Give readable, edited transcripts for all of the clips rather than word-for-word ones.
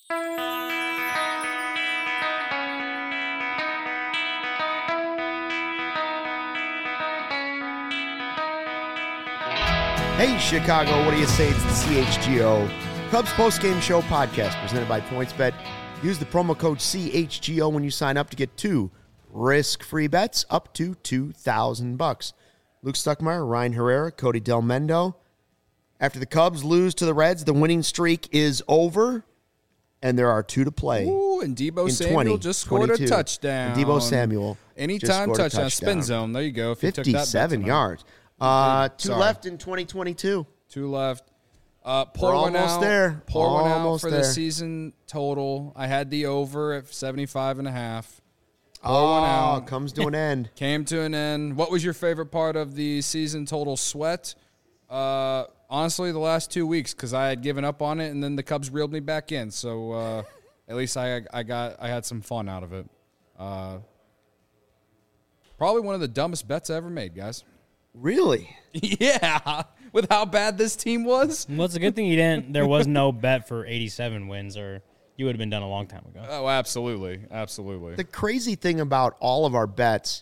Hey, Chicago, what do you say? It's the CHGO Cubs postgame show podcast presented by PointsBet. Use the promo code CHGO when you sign up to get 2 risk-free bets up to $2,000. Luke Stuckmeyer, Ryan Herrera, Cody Del Mendo. After the Cubs lose to the Reds, the winning streak is over, and there are 2 to play. Ooh, and Deebo Samuel just scored a touchdown. And Deebo Samuel anytime touchdown. Spin zone. There you go. If 57 yards. 2 left in 2022. 2 left. We're almost there. Pour one out for the season total. I had the over at 75.5. Pour one out. Comes to an end. Came to an end. What was your favorite part of the season total sweat? Honestly, the last 2 weeks, because I had given up on it, and then the Cubs reeled me back in. So at least I had some fun out of it. Probably one of the dumbest bets I ever made, guys. Really? Yeah. With how bad this team was. Well, it's a good thing there was no bet for 87 wins, or you would have been done a long time ago. Oh, absolutely. Absolutely. The crazy thing about all of our bets,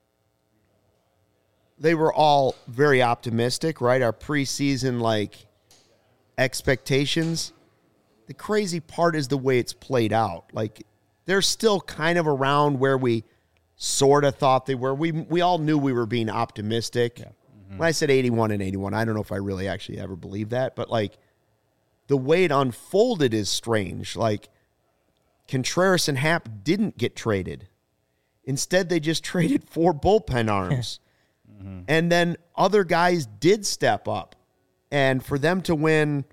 they were all very optimistic, right? Our preseason, expectations. The crazy part is the way it's played out. They're still kind of around where we sort of thought they were. We all knew we were being optimistic. Yeah. Mm-hmm. When I said 81 and 81, I don't know if I really actually ever believed that, but the way it unfolded is strange. Contreras and Happ didn't get traded. Instead, they just traded 4 bullpen arms. Mm-hmm. And then other guys did step up. And for them to win,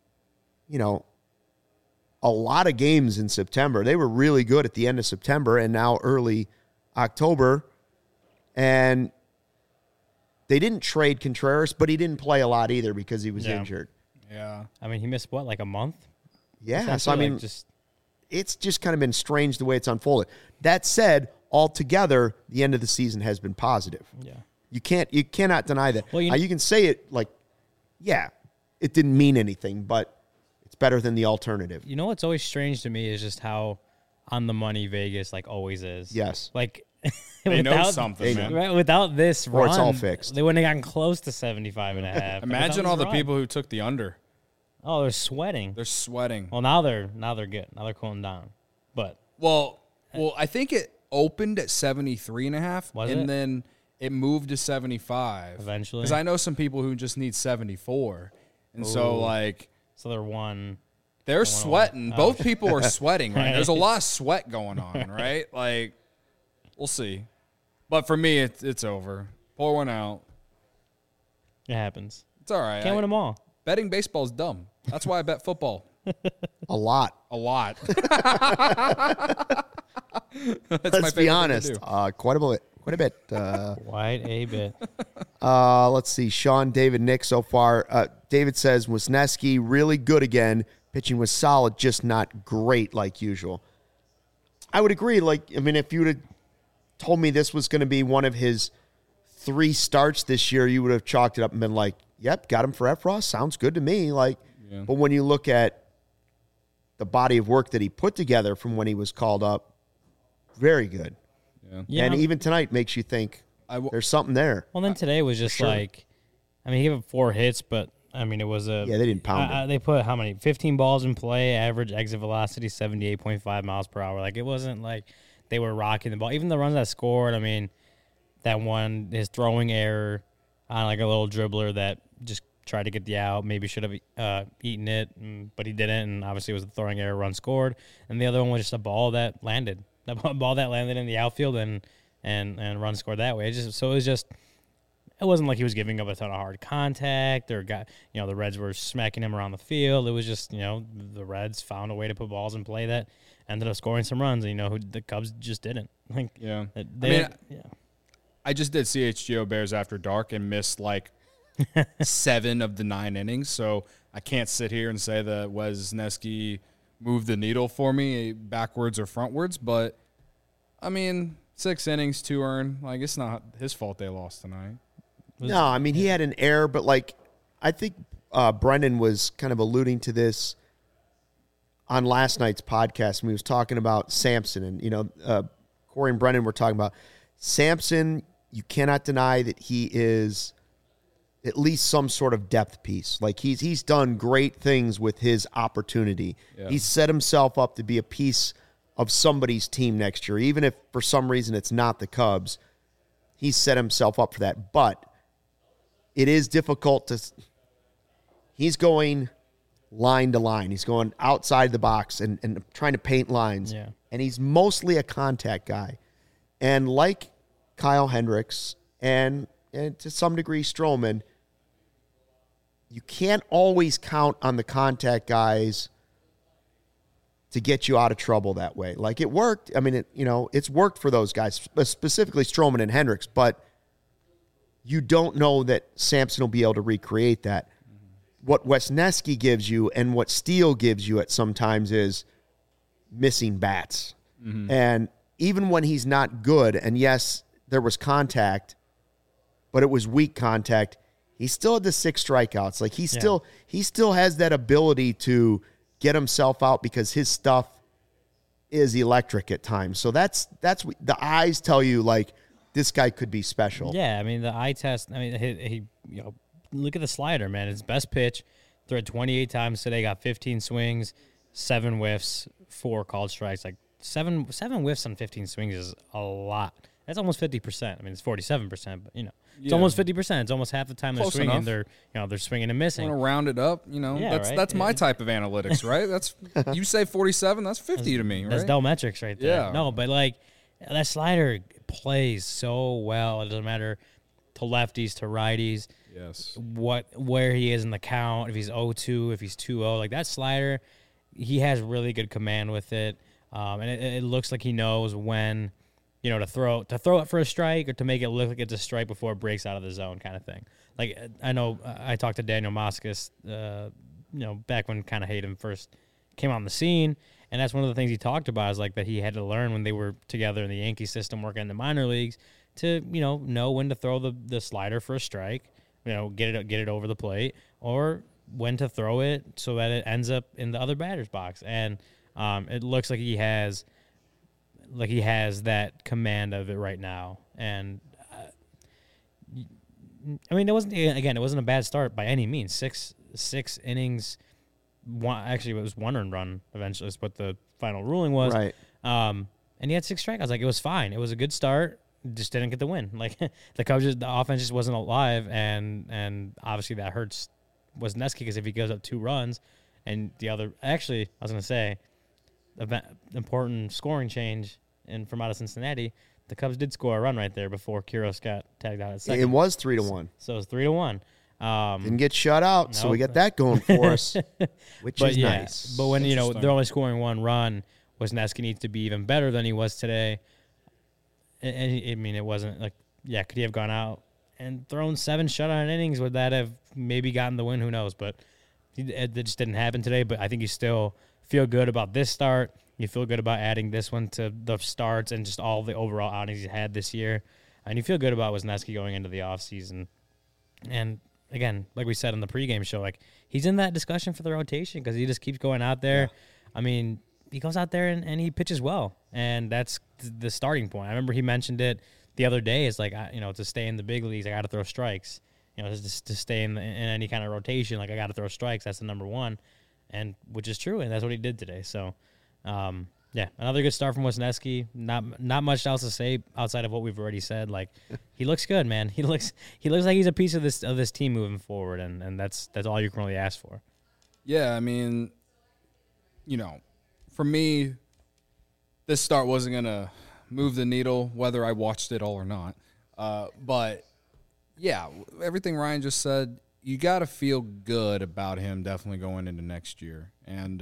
a lot of games in September, they were really good at the end of September and now early October, and they didn't trade Contreras, but he didn't play a lot either because he was injured. Yeah. I mean, he missed, a month? Yeah, so it's just kind of been strange the way it's unfolded. That said, altogether, the end of the season has been positive. Yeah. You cannot deny that. Well, you can say it it didn't mean anything, but it's better than the alternative. You know what's always strange to me is just how on the money Vegas always is. Yes. They know something, man. Right, without this run, or it's all fixed. They wouldn't have gotten close to 75.5. Imagine all the people who took the under. Oh, they're sweating. They're sweating. Well, now they're good. Now they're cooling down. But well, I think it opened at 73.5, and then it moved to 75 eventually. Because I know some people who just need 74, and so they're one. They're sweating. Both people are sweating, right? There's a lot of sweat going on, right? We'll see. But for me, it's over. Pour one out. It happens. It's all right. Can't win them all. Betting baseball is dumb. That's why I bet football. A lot. Let's be honest. Quite a bit. Quite a bit. Let's see. Sean, David, Nick so far. David says, Wisniewski really good again. Pitching was solid, just not great like usual. I would agree. If you would have told me this was going to be one of his 3 starts this year, you would have chalked it up and been like, yep, got him for Efros. Sounds good to me. But when you look at the body of work that he put together from when he was called up, very good. Yeah. And even tonight makes you think there's something there. Well, then today was just he gave up 4 hits, but it was they didn't pound it. They put how many? 15 balls in play, average exit velocity 78.5 miles per hour. It wasn't like they were rocking the ball. Even the runs that scored, that one, his throwing error on a little dribbler that just tried to get the out, maybe should have eaten it, but he didn't, and obviously it was the throwing error, run scored. And the other one was just a ball that landed. That ball that landed in the outfield and run scored that way. It wasn't like he was giving up a ton of hard contact or the Reds were smacking him around the field. It was just, the Reds found a way to put balls in play that ended up scoring some runs. And, the Cubs just didn't. I just did CHGO Bears After Dark and missed 7 of the 9 innings. So I can't sit here and say that Wisniewski moved the needle for me backwards or frontwards. But, 6 innings, 2 earned. It's not his fault they lost tonight. No, he had an error, but I think Brendan was kind of alluding to this on last night's podcast, and we was talking about Samson, and Corey and Brennan were talking about Samson. You cannot deny that he is at least some sort of depth piece. Like he's done great things with his opportunity. Yeah. He's set himself up to be a piece of somebody's team next year, even if for some reason it's not the Cubs. He's set himself up for that, but it is difficult to. He's going line to line. He's going outside the box and trying to paint lines. Yeah. And he's mostly a contact guy. And like Kyle Hendricks and to some degree Stroman, you can't always count on the contact guys to get you out of trouble that way. Like it worked. I mean, it's worked for those guys, specifically Stroman and Hendricks, but you don't know that Samson will be able to recreate that. What Wesneski gives you and what Steele gives you at sometimes is missing bats. Mm-hmm. And even when he's not good, and yes, there was contact, but it was weak contact, he still had the 6 strikeouts. Like he still has that ability to get himself out because his stuff is electric at times. So that's the eyes tell you, like, this guy could be special. Yeah, I mean, the eye test, I mean, he look at the slider, man. His best pitch, threw it 28 times today, got 15 swings, 7 whiffs, 4 called strikes. Like, seven whiffs on 15 swings is a lot. That's almost 50%. I mean, it's 47%, but, it's almost 50%. It's almost half the time Close they're swinging. enough. They're swinging and missing. Want to round it up, that's my type of analytics, right? That's you say 47, that's 50 to me, right? That's Dell metrics right there. Yeah. No, but like that slider plays so well. It doesn't matter to lefties, to righties. Yes. Where he is in the count, if he's 0-2, if he's 2-0, like that slider, he has really good command with it. And it looks like he knows when, to throw it for a strike or to make it look like it's a strike before it breaks out of the zone kind of thing. Like, I know I talked to Daniel Moskos, back when kind of Hayden first came on the scene, and that's one of the things he talked about is like that he had to learn when they were together in the Yankee system working in the minor leagues to, know when to throw the slider for a strike, get it over the plate, or when to throw it so that it ends up in the other batter's box. And it looks like he has that command of it right now. And I mean, it wasn't a bad start by any means. Six innings. It was 1 earned run eventually is what the final ruling was. Right. And he had 6 strikeouts. Like, it was fine. It was a good start. Just didn't get the win. Like, the offense just wasn't alive, and obviously that hurts Wesneski because if he gives up 2 runs, and the other, actually, I was going to say, important scoring change from out of Cincinnati, the Cubs did score a run right there before Quiros got tagged out at second. It was 3-1. So it was 3-1. Didn't get shut out, so we got that going for us, which is nice. But when they're only scoring 1 run, Wesneski needs to be even better than he was today. And it wasn't like, could he have gone out and thrown 7 shutout innings? Would that have maybe gotten the win? Who knows? But it just didn't happen today. But I think you still feel good about this start. You feel good about adding this one to the starts and just all the overall outings he's had this year. And you feel good about Wesneski going into the offseason. And again, like we said on the pregame show, like he's in that discussion for the rotation because he just keeps going out there. Yeah. I mean, he goes out there and he pitches well, and that's the starting point. I remember he mentioned it the other day. It's like, to stay in the big leagues, I got to throw strikes. Just to stay in any kind of rotation, like I got to throw strikes. That's the number one, and which is true, and that's what he did today. So, another good start from Wesneski. Not much else to say outside of what we've already said. Like, he looks good, man. He looks like he's a piece of this team moving forward, and that's all you can really ask for. Yeah, I mean, for me, this start wasn't gonna move the needle whether I watched it all or not. But yeah, everything Ryan just said, you got to feel good about him definitely going into next year, and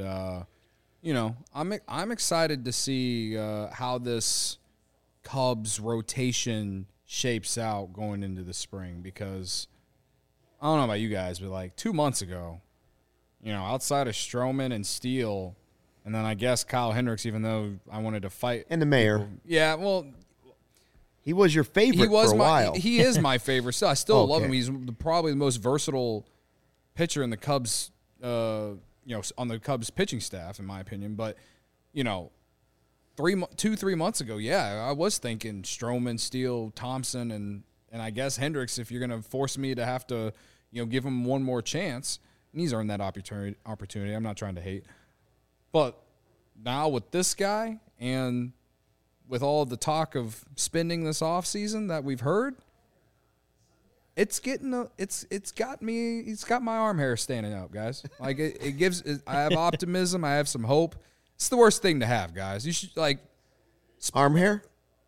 I'm excited to see how this Cubs rotation shapes out going into the spring, because I don't know about you guys, but like 2 months ago, outside of Stroman and Steele, and then I guess Kyle Hendricks, even though I wanted to fight. And the mayor. People. Yeah, well. He was your favorite for a while. He is my favorite. So I still love him. He's probably the most versatile pitcher in the Cubs, on the Cubs pitching staff, in my opinion. But, 3 months ago, yeah, I was thinking Stroman, Steele, Thompson, and I guess Hendricks, if you're going to force me to have to, give him one more chance. And he's earned that opportunity. I'm not trying to hate. But now with this guy and with all the talk of spending this offseason that we've heard, it's got my arm hair standing up, guys. Like I have optimism, I have some hope. It's the worst thing to have, guys. You should arm hair.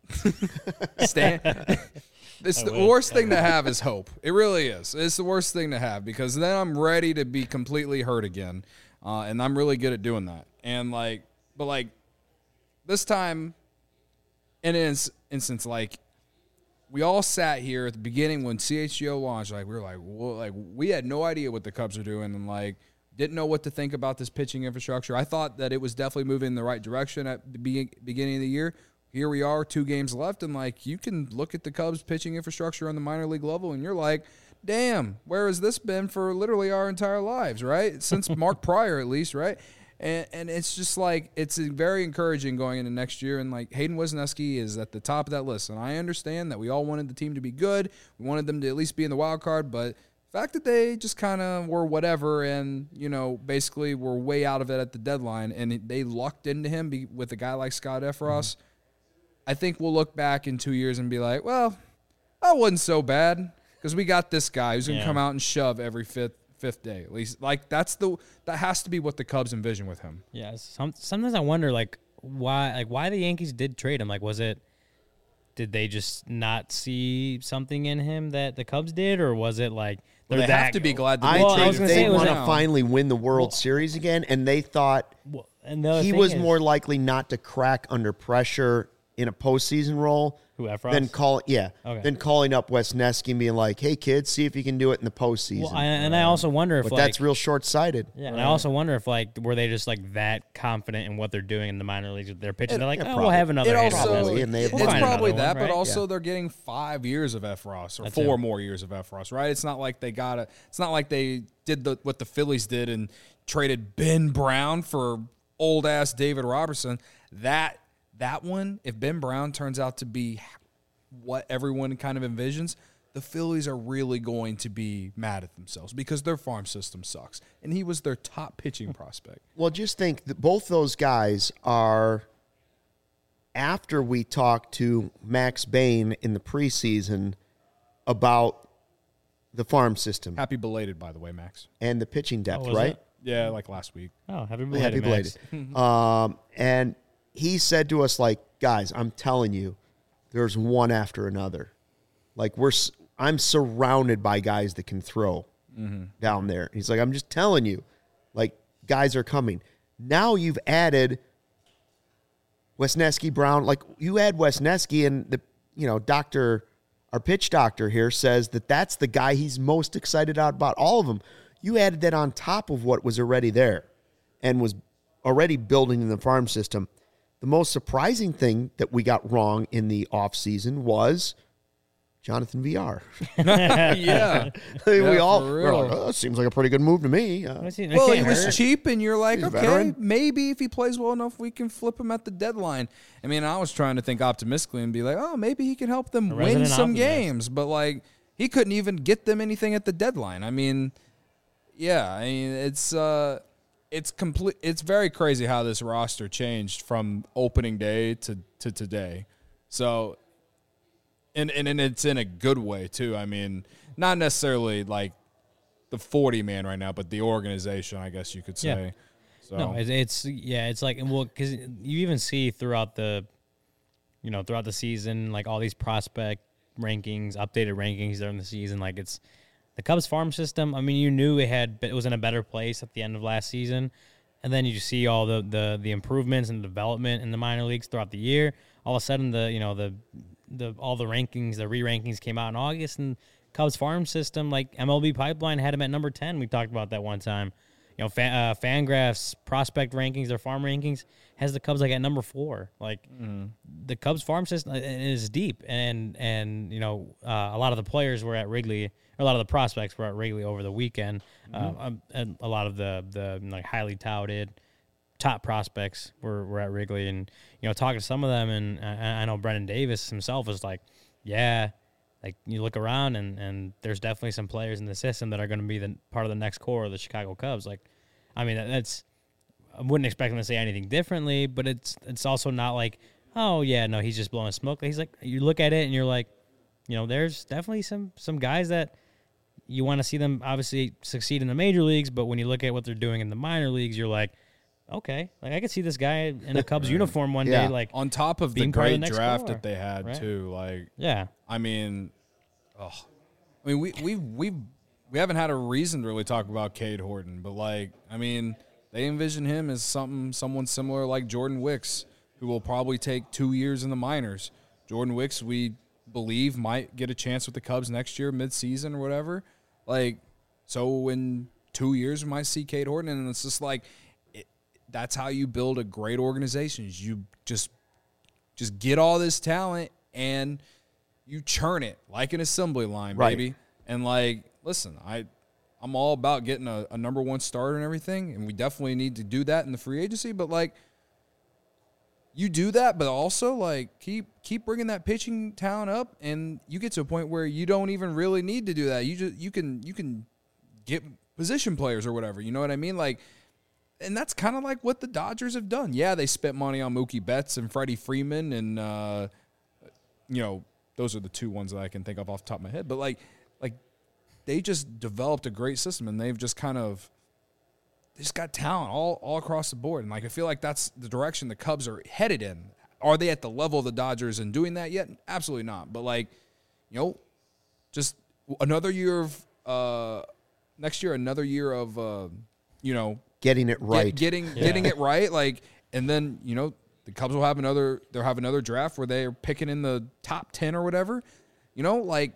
Stand. It's the worst thing to have is hope. It really is. It's the worst thing to have because then I'm ready to be completely hurt again, and I'm really good at doing that. And but this time, in an instance, we all sat here at the beginning when CHGO launched. We were we had no idea what the Cubs are doing, and didn't know what to think about this pitching infrastructure. I thought that it was definitely moving in the right direction at the beginning of the year. Here we are, 2 games left, and you can look at the Cubs pitching infrastructure on the minor league level, and you're like, damn, where has this been for literally our entire lives, right? Since Mark Pryor, at least, right? And it's just it's very encouraging going into next year. And Hayden Wesneski is at the top of that list. And I understand that we all wanted the team to be good. We wanted them to at least be in the wild card. But the fact that they just kind of were whatever and, basically were way out of it at the deadline and they lucked into him with a guy like Scott Efros, I think we'll look back in 2 years and be like, well, that wasn't so bad because we got this guy who's going to come out and shove every fifth day at least. That has to be what the Cubs envision with him. Yeah, sometimes I wonder why the Yankees did trade him. Did they just not see something in him that the Cubs did, or was it they have to be glad that they want to finally win the World Series again, and they thought he was more likely not to crack under pressure in a postseason role than calling up Wesneski and being like, "Hey, kid, see if you can do it in the postseason." Well, I also wonder if that's real short-sighted. Yeah, and I also wonder if were they just that confident in what they're doing in the minor leagues with their pitching? They're we'll have another. It's probably that, but also they're getting 5 years of Efros or 4 more years of Efros, right? It's not like they got It's not like they did what the Phillies did and traded Ben Brown for old ass David Robertson. That one, if Ben Brown turns out to be what everyone kind of envisions, the Phillies are really going to be mad at themselves because their farm system sucks. And he was their top pitching prospect. Well, just think that both those guys are, after we talked to Max Bain in the preseason about the farm system. Happy belated, by the way, Max. And the pitching depth, right? It? Yeah, last week. Oh, happy belated, Max. And he said to us, guys, I'm telling you, there's one after another. I'm surrounded by guys that can throw down there. He's like, I'm just telling you, guys are coming. Now you've added Wesneski, Brown. You add Wesneski, and our pitch doctor here says that's the guy he's most excited about all of them. You added that on top of what was already there and was already building in the farm system. The most surprising thing that we got wrong in the offseason was Jonathan VR. Yeah. We all were like, seems like a pretty good move to me. Well, he was cheap, and you're like, okay, maybe if he plays well enough, we can flip him at the deadline. I mean, I was trying to think optimistically and be like, oh, maybe he can help them win some games. But, he couldn't even get them anything at the deadline. I mean, yeah, it's very crazy how this roster changed from opening day to today. So, and it's in a good way too. I mean, not necessarily the 40-man right now, but the organization, I guess you could say. Yeah. So. No, it's because you even see throughout the season, all these prospect rankings, updated rankings during the season, it's the Cubs farm system. I mean, you knew it was in a better place at the end of last season, and then you see all the improvements and development in the minor leagues throughout the year. All of a sudden, all the rankings, the re-rankings came out in August, and Cubs farm system, MLB Pipeline had him at number 10. We talked about that one time. you know, Fangraphs prospect rankings, their farm rankings, has the Cubs like at number 4. Like the Cubs farm system is deep, and you know, a lot of the players were at Wrigley, or a lot of the prospects were at Wrigley over the weekend, and a lot of the like highly touted top prospects were at Wrigley, and you know, talking to some of them, and I know Brendan Davis himself was like, yeah. Like, you look around, and there's definitely some players in the system that are going to be the part of the next core of the Chicago Cubs. Like, I mean, that's I wouldn't expect him to say anything differently, but it's also not like, oh, yeah, no, he's just blowing smoke. He's like, you look at it, and you're like, you know, there's definitely some guys that you want to see them obviously succeed in the major leagues, but when you look at what they're doing in the minor leagues, you're like, okay, like I could see this guy in a Cubs uniform one day, like on top of the being part of the great next draft core, that they had right? too. Like, Yeah. I mean, we haven't had a reason to really talk about Cade Horton, but like, I mean, they envision him as someone similar like Jordan Wicks, who will probably take 2 years in the minors. Jordan Wicks, we believe, might get a chance with the Cubs next year, midseason or whatever. Like, so in 2 years, we might see Cade Horton, and it's just like, that's how you build a great organization. Is you just get all this talent and you churn it like an assembly line, Right. baby. And like, listen, I'm all about getting a number one starter and everything, and we definitely need to do that in the free agency. But like, you do that, but also like keep bringing that pitching talent up, and you get to a point where you don't even really need to do that. You can get position players or whatever. You know what I mean? Like. And that's kind of like what the Dodgers have done. Yeah, they spent money on Mookie Betts and Freddie Freeman, and you know, those are the two ones that I can think of off the top of my head. But like they just developed a great system, and they've just they just got talent all across the board. And like, I feel like that's the direction the Cubs are headed in. Are they at the level of the Dodgers and doing that yet? Absolutely not. But like, you know, just another year of next year, another year of you know. Getting it right. Getting it right. Like, and then, you know, the Cubs will have another draft where they're picking in the top 10 or whatever. You know, like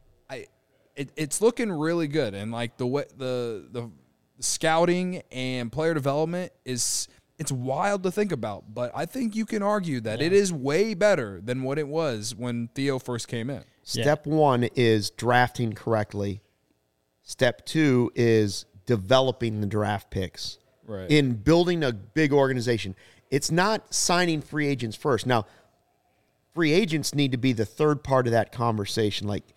it's looking really good. And like the scouting and player development it's wild to think about, but I think you can argue that it is way better than what it was when Theo first came in. Step 1 is drafting correctly. Step 2 is developing the draft picks, right? In building a big organization. It's not signing free agents first. Now, free agents need to be the third part of that conversation, like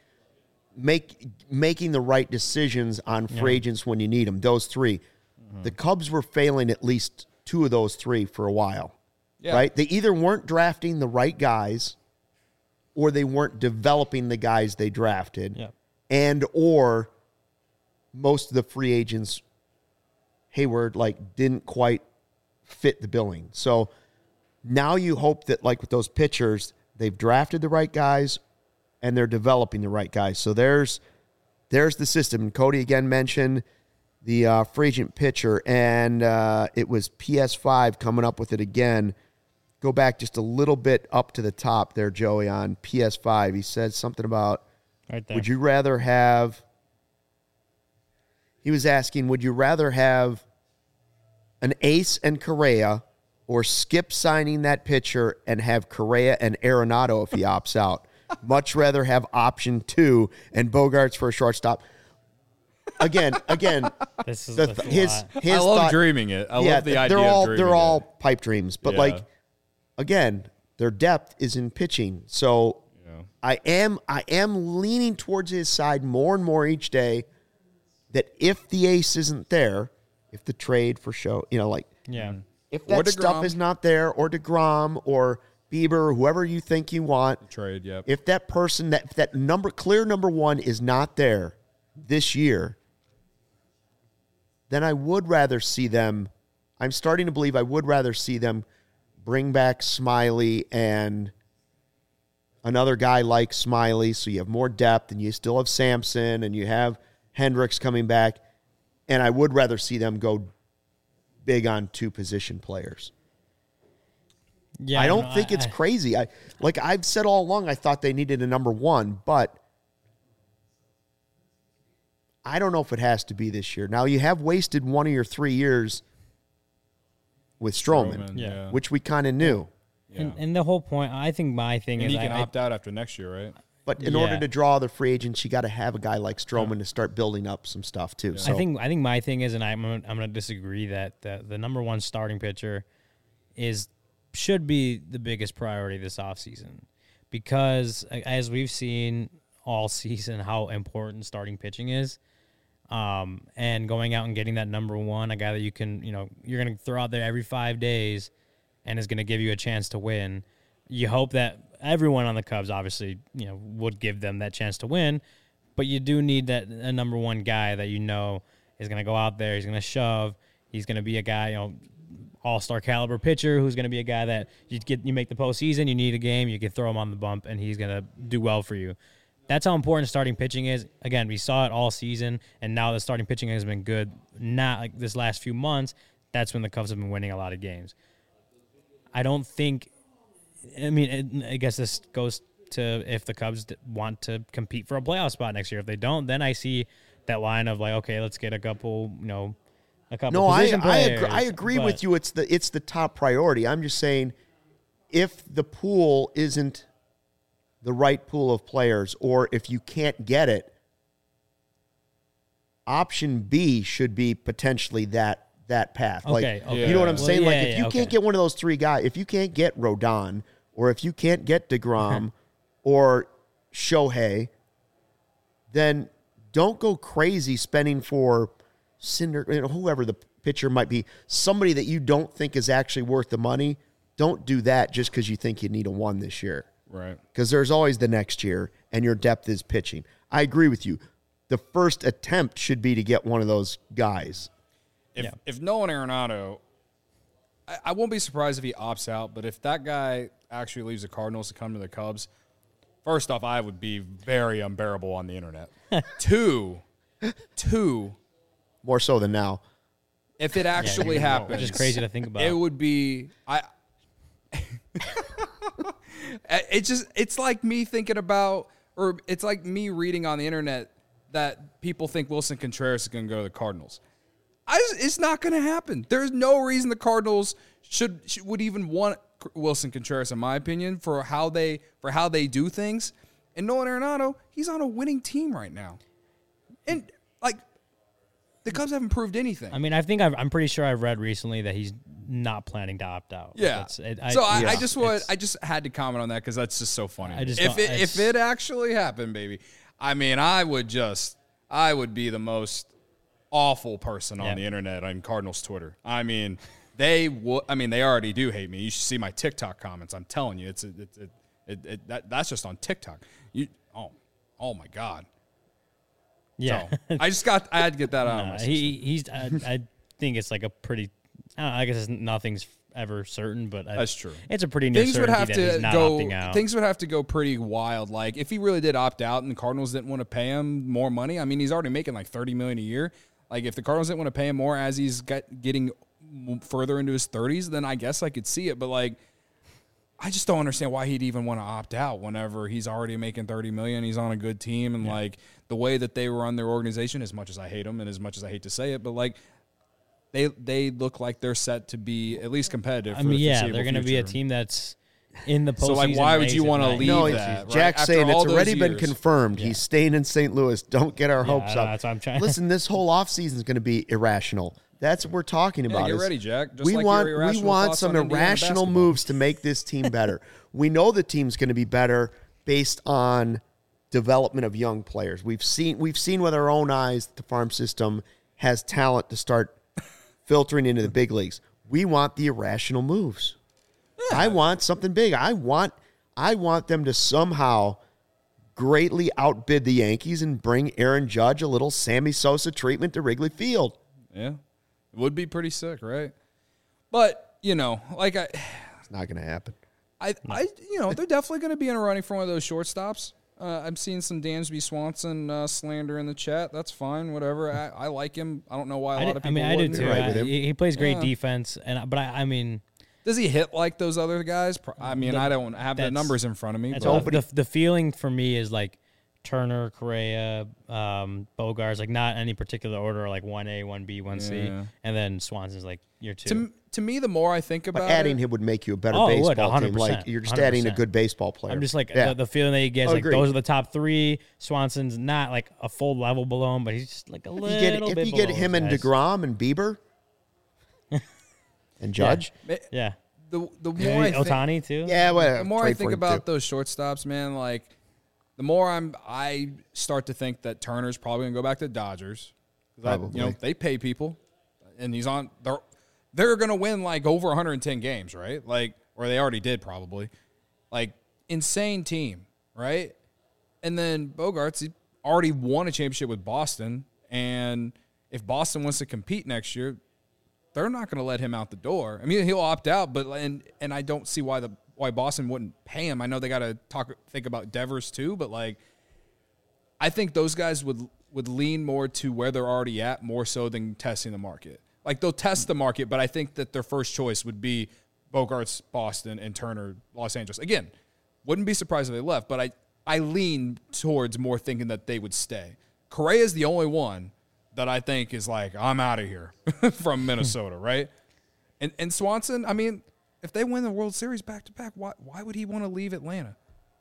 making the right decisions on free agents when you need them. Those three. Mm-hmm. The Cubs were failing at least 2 of those 3 for a while, right? They either weren't drafting the right guys or they weren't developing the guys they drafted, and or most of the free agents, Hayward, like, didn't quite fit the billing. So now you hope that, like with those pitchers, they've drafted the right guys and they're developing the right guys. So there's the system. And Cody again mentioned the free agent pitcher, and it was PS5 coming up with it again. Go back just a little bit up to the top there, Joey, on PS5. He said something about, right there. would you rather have... He was asking, would you rather have an Ace and Correa or skip signing that pitcher and have Correa and Arenado if he opts out? Much rather have option 2 and Bogarts for a shortstop. Again, This is his I love thought, dreaming it. I love the idea of dreaming they're all it. pipe dreams. But like, again, their depth is in pitching. So I am leaning towards his side more and more each day. That if the ace isn't there, if the trade for show, you know, like, if that stuff is not there, or DeGrom or Bieber or whoever you think you want, trade, if that person, that clear number 1 is not there this year, then I would rather see them. I'm starting to believe I would rather see them bring back Smiley and another guy like Smiley, so you have more depth, and you still have Sampson, and you have Hendricks coming back, and I would rather see them go big on 2 position players. Yeah, I don't think it's crazy. I've said all along, I thought they needed a number 1, but I don't know if it has to be this year. Now, you have wasted 1 of your 3 years with Stroman, yeah. which we kind of knew. Yeah. And the whole point, I think my thing And is he can opt out after next year, right? But in order to draw the free agents, you got to have a guy like Stroman to start building up some stuff too. So I think my thing is, and I'm going to disagree that the number one starting pitcher should be the biggest priority this offseason, because as we've seen all season how important starting pitching is, and going out and getting that number one, a guy that you can, you're going to throw out there every 5 days and is going to give you a chance to win. You hope that everyone on the Cubs obviously, would give them that chance to win, but you do need a number one guy that is going to go out there, he's going to shove, he's going to be a guy, all-star caliber pitcher who's going to be a guy that you make the postseason, you need a game, you can throw him on the bump, and he's going to do well for you. That's how important starting pitching is. Again, we saw it all season, and now the starting pitching has been good. Not like this last few months, that's when the Cubs have been winning a lot of games. I guess this goes to if the Cubs want to compete for a playoff spot next year. If they don't, then I see that line of like, okay, let's get a couple position players. I agree with you. It's the top priority. I'm just saying, if the pool isn't the right pool of players, or if you can't get it, option B should be potentially that path. Okay. You know what I'm saying? Well, if you can't get one of those 3 guys, if you can't get Rodon, or if you can't get DeGrom or Shohei, then don't go crazy spending for whoever the pitcher might be, somebody that you don't think is actually worth the money. Don't do that just because you think you need a 1 this year. Right. Because there's always the next year, and your depth is pitching. I agree with you. The first attempt should be to get one of those guys. If Nolan Arenado, I won't be surprised if he opts out, but if that guy actually leaves the Cardinals to come to the Cubs, first off, I would be very unbearable on the internet. Two, more so than now. If it actually happens, which is crazy to think about, it would be it's like me thinking about, or it's like me reading on the internet that people think Wilson Contreras is going to go to the Cardinals. It's not going to happen. There's no reason the Cardinals would even want Wilson Contreras, in my opinion, for how they do things. And Nolan Arenado, he's on a winning team right now, and the Cubs haven't proved anything. I mean, I'm pretty sure I've read recently that he's not planning to opt out. Yeah. I just had to comment on that because that's just so funny. If it actually happened, baby, I mean, I would be the most awful person on the internet on Cardinals Twitter. I mean, they already do hate me. You should see my TikTok comments. I'm telling you, that's just on TikTok. Oh my God. Yeah. So, I had to get that out of my system. I think it's like a pretty, I guess nothing's ever certain, but that's true. It's a pretty near certainty that he's not opting out. Things would have to go pretty wild. Like if he really did opt out and the Cardinals didn't want to pay him more money, I mean, he's already making like $30 million a year. Like if the Cardinals didn't want to pay him more as he's getting further into his 30s, then I guess I could see it. But like, I just don't understand why he'd even want to opt out whenever he's already making $30 million. He's on a good team, and like the way that they run their organization, as much as I hate them and as much as I hate to say it, but like they look like they're set to be at least competitive. I mean, they're going to be a team that's in the postseason. So like, why would you want to leave that? Jack's saying it's already been confirmed. He's staying in St. Louis. Don't get our hopes up. That's what I'm trying. Listen, this whole offseason is going to be irrational. That's what we're talking about. Get ready, Jack. We want some irrational moves to make this team better. We know the team's going to be better based on development of young players. We've seen with our own eyes that the farm system has talent to start filtering into the big leagues. We want the irrational moves. Yeah. I want something big. I want them to somehow greatly outbid the Yankees and bring Aaron Judge a little Sammy Sosa treatment to Wrigley Field. Yeah. It would be pretty sick, right? But, it's not going to happen. They're definitely going to be in a running for one of those shortstops. I'm seeing some Dansby Swanson slander in the chat. That's fine, whatever. I like him. I don't know why a lot of people I do wouldn't. too. Right with him. He plays great defense, but does he hit like those other guys? I mean, I don't have the numbers in front of me. The feeling for me is like Turner, Correa, Bogarts, like not any particular order, like 1A, 1B, 1C, Yeah. and then Swanson's like year 2. To me, the more I think about But adding it, him would make you a better Oh, it would, baseball team. 100%, Like you're just adding a 100%. good baseball player. I'm just like Yeah. the feeling that he gets, like Agreed. those are the top 3. Swanson's not like a full level below him, but he's just like a little if bit you get below him those and guys. DeGrom and Bieber and Judge, Yeah. the more Maybe I think, Otani too. yeah, well, the more I trade for think him, about too. those shortstops, man, like the more I start to think that Turner's probably gonna go back to the Dodgers. 'Cause Probably. they pay people, and he's on. They're gonna win like over 110 games, right? Like, or they already did probably. Like, insane team, right? And then Bogarts, he already won a championship with Boston, and if Boston wants to compete next year, they're not going to let him out the door. I mean, he'll opt out, but and I don't see why Boston wouldn't pay him. I know they got to think about Devers too, but like, I think those guys would lean more to where they're already at more so than testing the market. Like they'll test the market, but I think that their first choice would be Bogarts, Boston, and Turner, Los Angeles. Again, wouldn't be surprised if they left, but I lean towards more thinking that they would stay. Correa is the only one that I think is like, I'm out of here from Minnesota, right? And Swanson, I mean, if they win the World Series back to back, why would he want to leave Atlanta?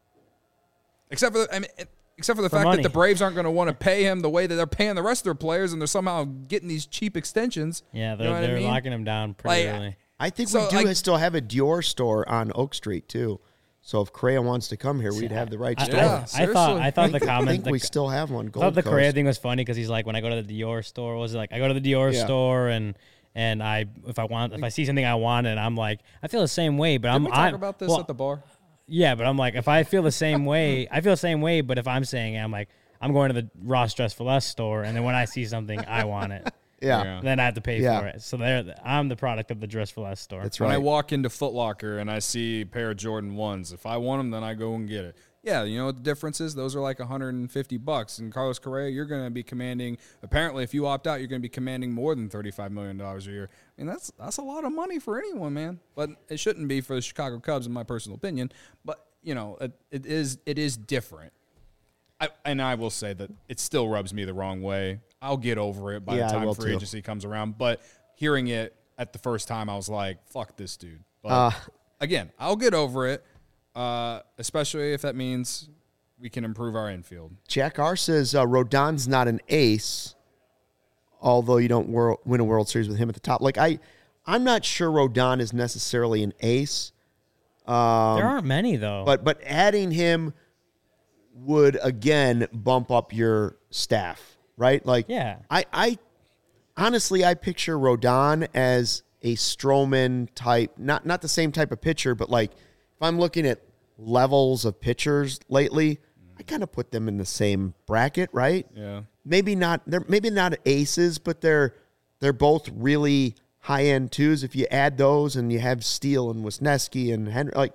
Except for the fact money. that the Braves aren't going to want to pay him the way that they're paying the rest of their players, and they're somehow getting these cheap extensions. Yeah, You know what I they're mean? locking him down pretty Like, early. I think So, we do like- still have a Dior store on Oak Street too. So if Correa wants to come here, we'd have the right I, store. Yeah, I thought the I think comment. we still have one. I Gold thought the Coast. Correa thing was funny because he's like, when I go to the Dior store, was it like I go to the Dior Yeah. store and if I see something I want and I'm like, I feel the same way, but Didn't we talk about this well, at the bar? yeah, but I'm like, if I feel the same way, I feel the same way. But if I'm saying it, I'm like, I'm going to the Ross Dress for Less store, and then when I see something, I want it. Yeah, Then I have to pay Yeah. for it. So I'm the product of the Dress for Less store. that's When right. I walk into Foot Locker and I see a pair of Jordan 1s, if I want them, then I go and get it. Yeah, you know what the difference is? Those are like $150. And Carlos Correa, you're going to be commanding, apparently if you opt out, you're going to be commanding more than $35 million a year. I mean, that's a lot of money for anyone, man. But it shouldn't be for the Chicago Cubs, in my personal opinion. But, you know, it is different. I will say that it still rubs me the wrong way. I'll get over it by Yeah, I the time will free too. agency comes around. But hearing it at the first time, I was like, fuck this dude. But again, I'll get over it, especially if that means we can improve our infield. Jack R says Rodon's not an ace, although you don't win a World Series with him at the top. Like I'm not sure Rodon is necessarily an ace, There aren't many though. but adding him would again bump up your staff, right? Like, Yeah. I honestly I picture Rodon as a Stroman type, not the same type of pitcher, but like if I'm looking at levels of pitchers lately, I kind of put them in the same bracket, right? Yeah. Maybe not aces, but they're both really high end twos. If you add those and you have Steele and Wisniewski and Henry, like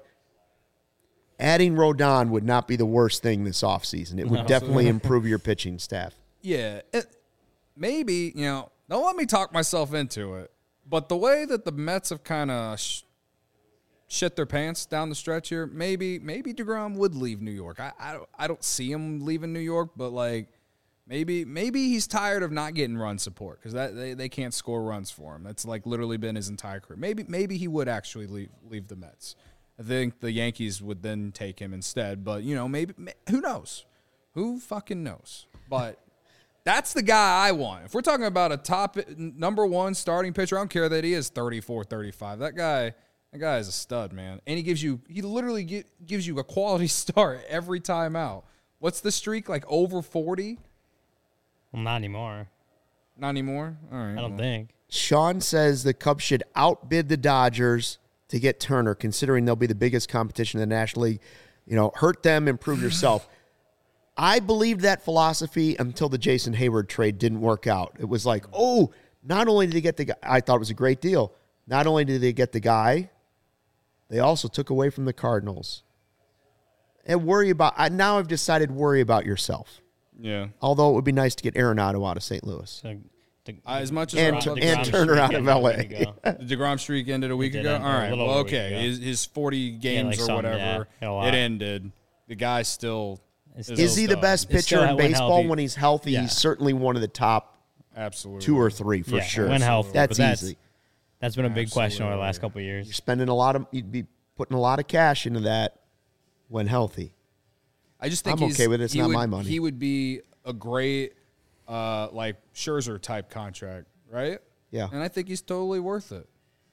adding Rodon would not be the worst thing this offseason. It would definitely improve your pitching staff. Yeah. Maybe, you know, don't let me talk myself into it, but the way that the Mets have kind of shit their pants down the stretch here, maybe DeGrom would leave New York. I don't see him leaving New York, but like maybe he's tired of not getting run support because they can't score runs for him. That's like literally been his entire career. Maybe he would actually leave the Mets. I think the Yankees would then take him instead, but you know, maybe who knows? Who fucking knows? But that's the guy I want. If we're talking about a top number one starting pitcher, I don't care that he is 34, 35. That guy is a stud, man. And he literally gives you a quality start every time out. What's the streak? Like over 40? Well, not anymore. Not anymore? All right. I don't think. Sean says the Cubs should outbid the Dodgers to get Turner, considering they'll be the biggest competition in the National League. You know, hurt them, improve yourself. I believed that philosophy until the Jason Hayward trade didn't work out. It was like, oh, not only did they get the guy, I thought it was a great deal. Not only did they get the guy, they also took away from the Cardinals. And now I've decided worry about yourself. Yeah. Although it would be nice to get Arenado out of St. Louis. So, As much as And I love and DeGrom Turner out streak of ended a LA. week ago. the DeGrom streak ended a week It did ago? end All a right. little Well, over a week okay. ago. His 40 games like or some, whatever, yeah, a lot. it ended. The guy still Is he the stud. best It's still pitcher in when baseball healthy. when he's healthy? Yeah. He's certainly one of the top Absolutely. 2 or 3 for Yeah, sure. when healthy, That's but easy. That's been a big question over the last couple of You're years. spending you'd be putting a lot of cash into that when healthy. I just think I'm okay with it. It's he not would- my money. He would be a great, like Scherzer type contract, right? Yeah. And I think he's totally worth it.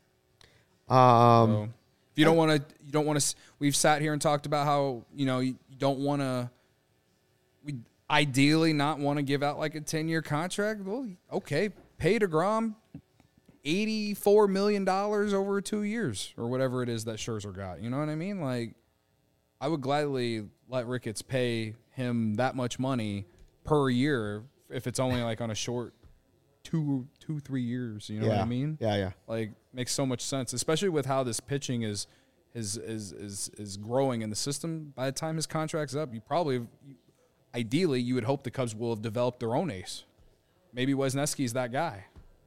Um, So, if you don't want to, we've sat here and talked about how, you don't want to, we ideally not want to give out like a 10-year contract. Well, okay, pay DeGrom $84 million over 2 years or whatever it is that Scherzer got. You know what I mean? Like, I would gladly let Ricketts pay him that much money per year if it's only like on a short 2-3 years. You know what I mean? Yeah. Like, makes so much sense, especially with how this pitching is growing in the system. By the time his contract's up, ideally, you would hope the Cubs will have developed their own ace. Maybe Wisniewski's that guy.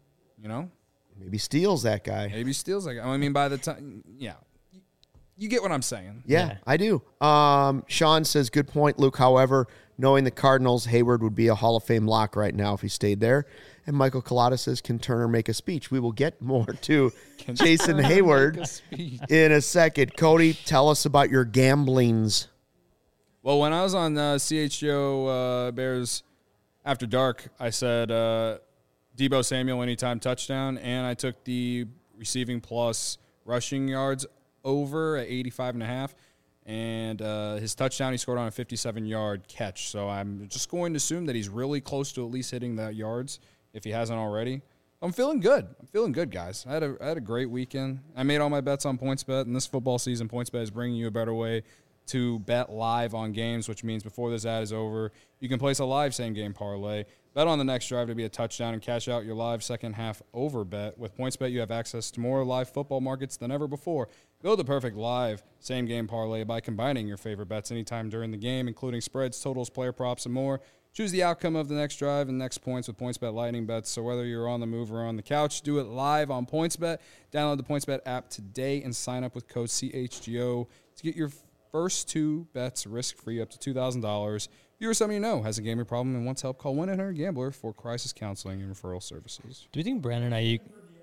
Maybe Steele's that guy. Maybe Steele's that guy. I mean, by the time, you get what I'm saying. Yeah, I do. Sean says, good point, Luke. However, knowing the Cardinals, Hayward would be a Hall of Fame lock right now if he stayed there. And Michael Collada says, can Turner make a speech? We will get more to Jason Hayward in a second. Cody, tell us about your gamblings. Well, when I was on CHGO Bears After Dark, I said Deebo Samuel anytime touchdown, and I took the receiving plus rushing yards over at 85.5, and his touchdown he scored on a 57-yard catch. So I'm just going to assume that he's really close to at least hitting that yards if he hasn't already. I'm feeling good. Guys. I had a great weekend. I made all my bets on PointsBet, and this football season, PointsBet is bringing you a better way to bet live on games, which means before this ad is over, you can place a live same-game parlay, bet on the next drive to be a touchdown, and cash out your live second-half over bet. With PointsBet, you have access to more live football markets than ever before. Build the perfect live same-game parlay by combining your favorite bets anytime during the game, including spreads, totals, player props, and more. Choose the outcome of the next drive and next points with PointsBet Lightning Bets. So whether you're on the move or on the couch, do it live on PointsBet. Download the PointsBet app today and sign up with code CHGO to get your first 2 bets risk-free up to $2,000. If you or someone you know has a gambling problem and wants help, call 1-800-GAMBLER for crisis counseling and referral services. Do you think Brandon Ayuk?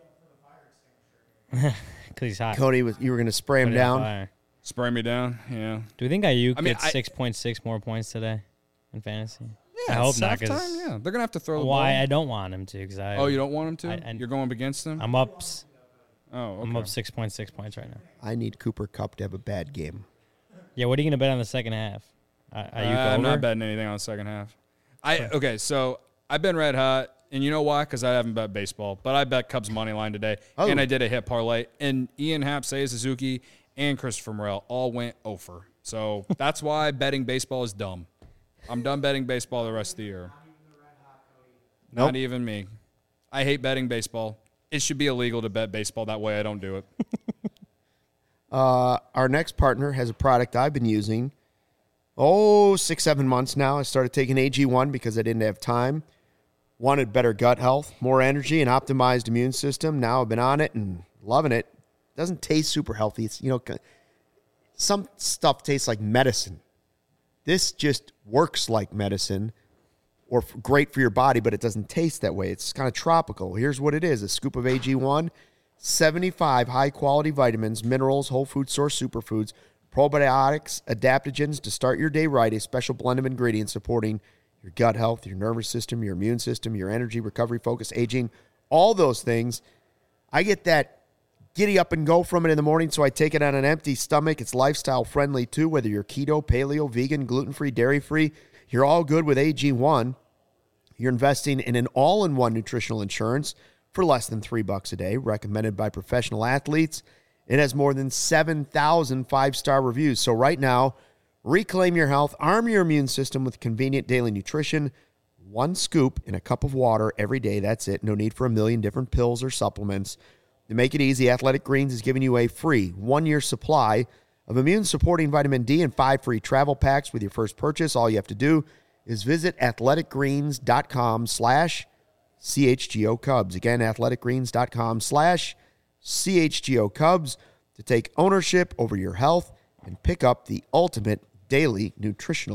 Because he's hot. Cody, you were going to spray him Put it on down. fire. Spray me down, yeah. Do we think Ayuk I mean, gets 6.6 more points today in fantasy? Yeah, I hope it's not. halftime, 'Cause yeah. They're going to have to throw the why ball. I don't want him to? Because Oh, you don't want him to? I- You're going against him? I'm up. Oh, okay. I'm up 6.6 points right now. I need Cooper Kupp to have a bad game. Yeah, what are you gonna bet on the second half? Ayuk I'm over? not betting anything on the second half. Okay, so I've been red hot, and you know why? Because I haven't bet baseball, but I bet Cubs money line today, and I did a hit parlay. And Ian Happ, Seiya Suzuki, and Christopher Morel all went over. So that's why betting baseball is dumb. I'm done betting baseball the rest of the year. Not even me. I hate betting baseball. It should be illegal to bet baseball. That way I don't do it. Our next partner has a product I've been using, 6-7 months now. I started taking AG1 because I didn't have time. Wanted better gut health, more energy, and optimized immune system. Now I've been on it and loving it. Doesn't taste super healthy. It's, some stuff tastes like medicine. This just works like medicine or great for your body, but it doesn't taste that way. It's kind of tropical. Here's what it is. A scoop of AG1, 75 high-quality vitamins, minerals, whole food source superfoods, probiotics, adaptogens to start your day right, a special blend of ingredients supporting your gut health, your nervous system, your immune system, your energy, recovery, focus, aging, all those things. I get that giddy up and go from it in the morning, so I take it on an empty stomach. It's lifestyle friendly too, whether you're keto, paleo, vegan, gluten-free, dairy-free. You're all good with AG1. You're investing in an all-in-one nutritional insurance for less than $3 a day, recommended by professional athletes. It has more than 7,000 five-star reviews. So right now, reclaim your health, arm your immune system with convenient daily nutrition. 1 scoop in a cup of water every day. That's it. No need for a million different pills or supplements. To make it easy, Athletic Greens is giving you a free 1-year supply of immune-supporting vitamin D and 5 free travel packs with your first purchase. All you have to do is visit athleticgreens.com/CHGO Cubs. Again, athleticgreens.com/CHGO Cubs to take ownership over your health and pick up the ultimate daily nutritional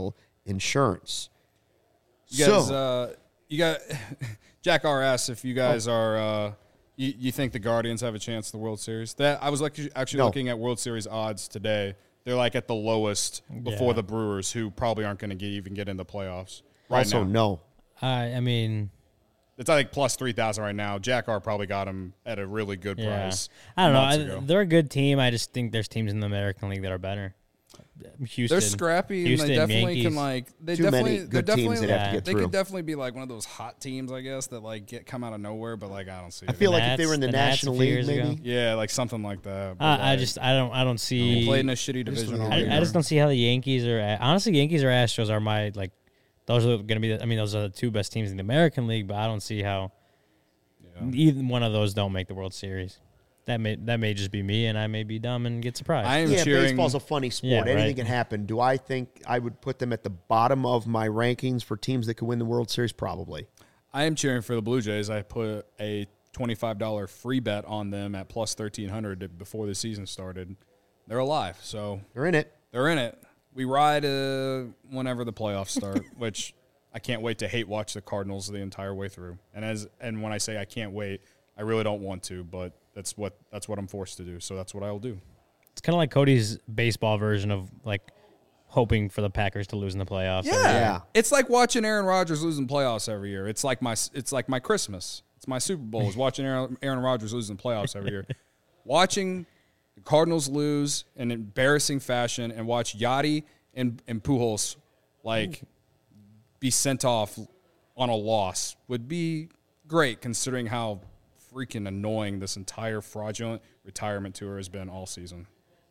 insurance. You guys, you got Jack R asks if you guys are you think the Guardians have a chance at the World Series. That I was actually looking at World Series odds today. They're like at the lowest before the Brewers, who probably aren't going to even get in the playoffs. Right also, now. no. I mean, it's like plus 3,000 right now. Jack R probably got him at a really good price. I don't months know. ago. They're a good team. I just think there's teams in the American League that are better. Houston, They're scrappy, Houston, and they definitely Yankees. can like. They Too definitely, many good teams they'd have to get They through. could definitely be like one of those hot teams, I guess, that like come out of nowhere. But like, I don't see. I it. feel like if they were in the The Nats National a few League, years ago. maybe. Yeah, like something like that. But, I like, I don't see. they played in a shitty division. all year. I just don't see how the Yankees or honestly Yankees or Astros are my like. Those are going to be. I mean, those are the two best teams in the American League, but I don't see how either one of those don't make the World Series. That may just be me, and I may be dumb and get surprised. I am Yeah, cheering. baseball's a funny sport. Yeah, Anything right. can happen. Do I think I would put them at the bottom of my rankings for teams that could win the World Series? Probably. I am cheering for the Blue Jays. I put a $25 free bet on them at plus 1,300 before the season started. They're alive, so They're in it. they're in it. We ride whenever the playoffs start, which I can't wait to hate watch the Cardinals the entire way through. And when I say I can't wait, I really don't want to, but that's what I'm forced to do. So that's what I will do. It's kind of like Cody's baseball version of like hoping for the Packers to lose in the playoffs. Yeah. It's like watching Aaron Rodgers losing playoffs every year. It's like my Christmas. It's my Super Bowl is watching Aaron Rodgers losing playoffs every year. Watching the Cardinals lose in embarrassing fashion and watch Yachty and Pujols like be sent off on a loss would be great considering how freaking annoying this entire fraudulent retirement tour has been all season.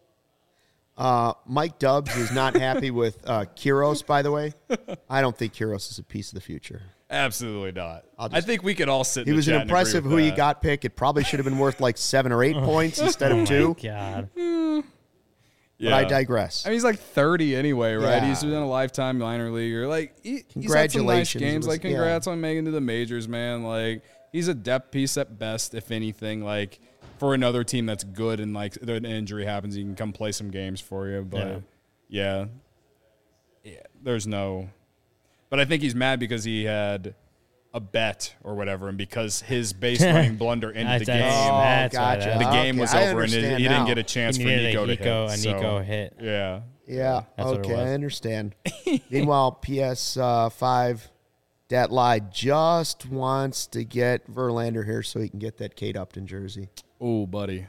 Mike Dubs is not happy with Kiros, by the way. I don't think Kiros is a piece of the future. Absolutely not. I'll I just- think we could all sit in He the was an chat and agree impressive with who he that. got pick. It probably should have been worth like 7 or 8 points instead Oh of 2. God. But I digress. I mean, he's like 30 anyway, right? Yeah. He's been a lifetime minor leaguer. Like, he's had some nice Congratulations. games. It was- Like, congrats on making it to the majors, man. Like, he's a depth piece at best, if anything. Like, for another team that's good and, like, an injury happens, he can come play some games for you. But, yeah there's no – but I think he's mad because he had a bet or whatever, and because his base running blunder ended the game. That's why gotcha. that- The game Okay, was I over, and he understand didn't now. get a chance He for needed Nico to a hit. Nico So, hit. yeah. Yeah, That's what it okay, was. I understand. Meanwhile, PS5, Dat Lie just wants to get Verlander here so he can get that Kate Upton jersey. Oh, buddy.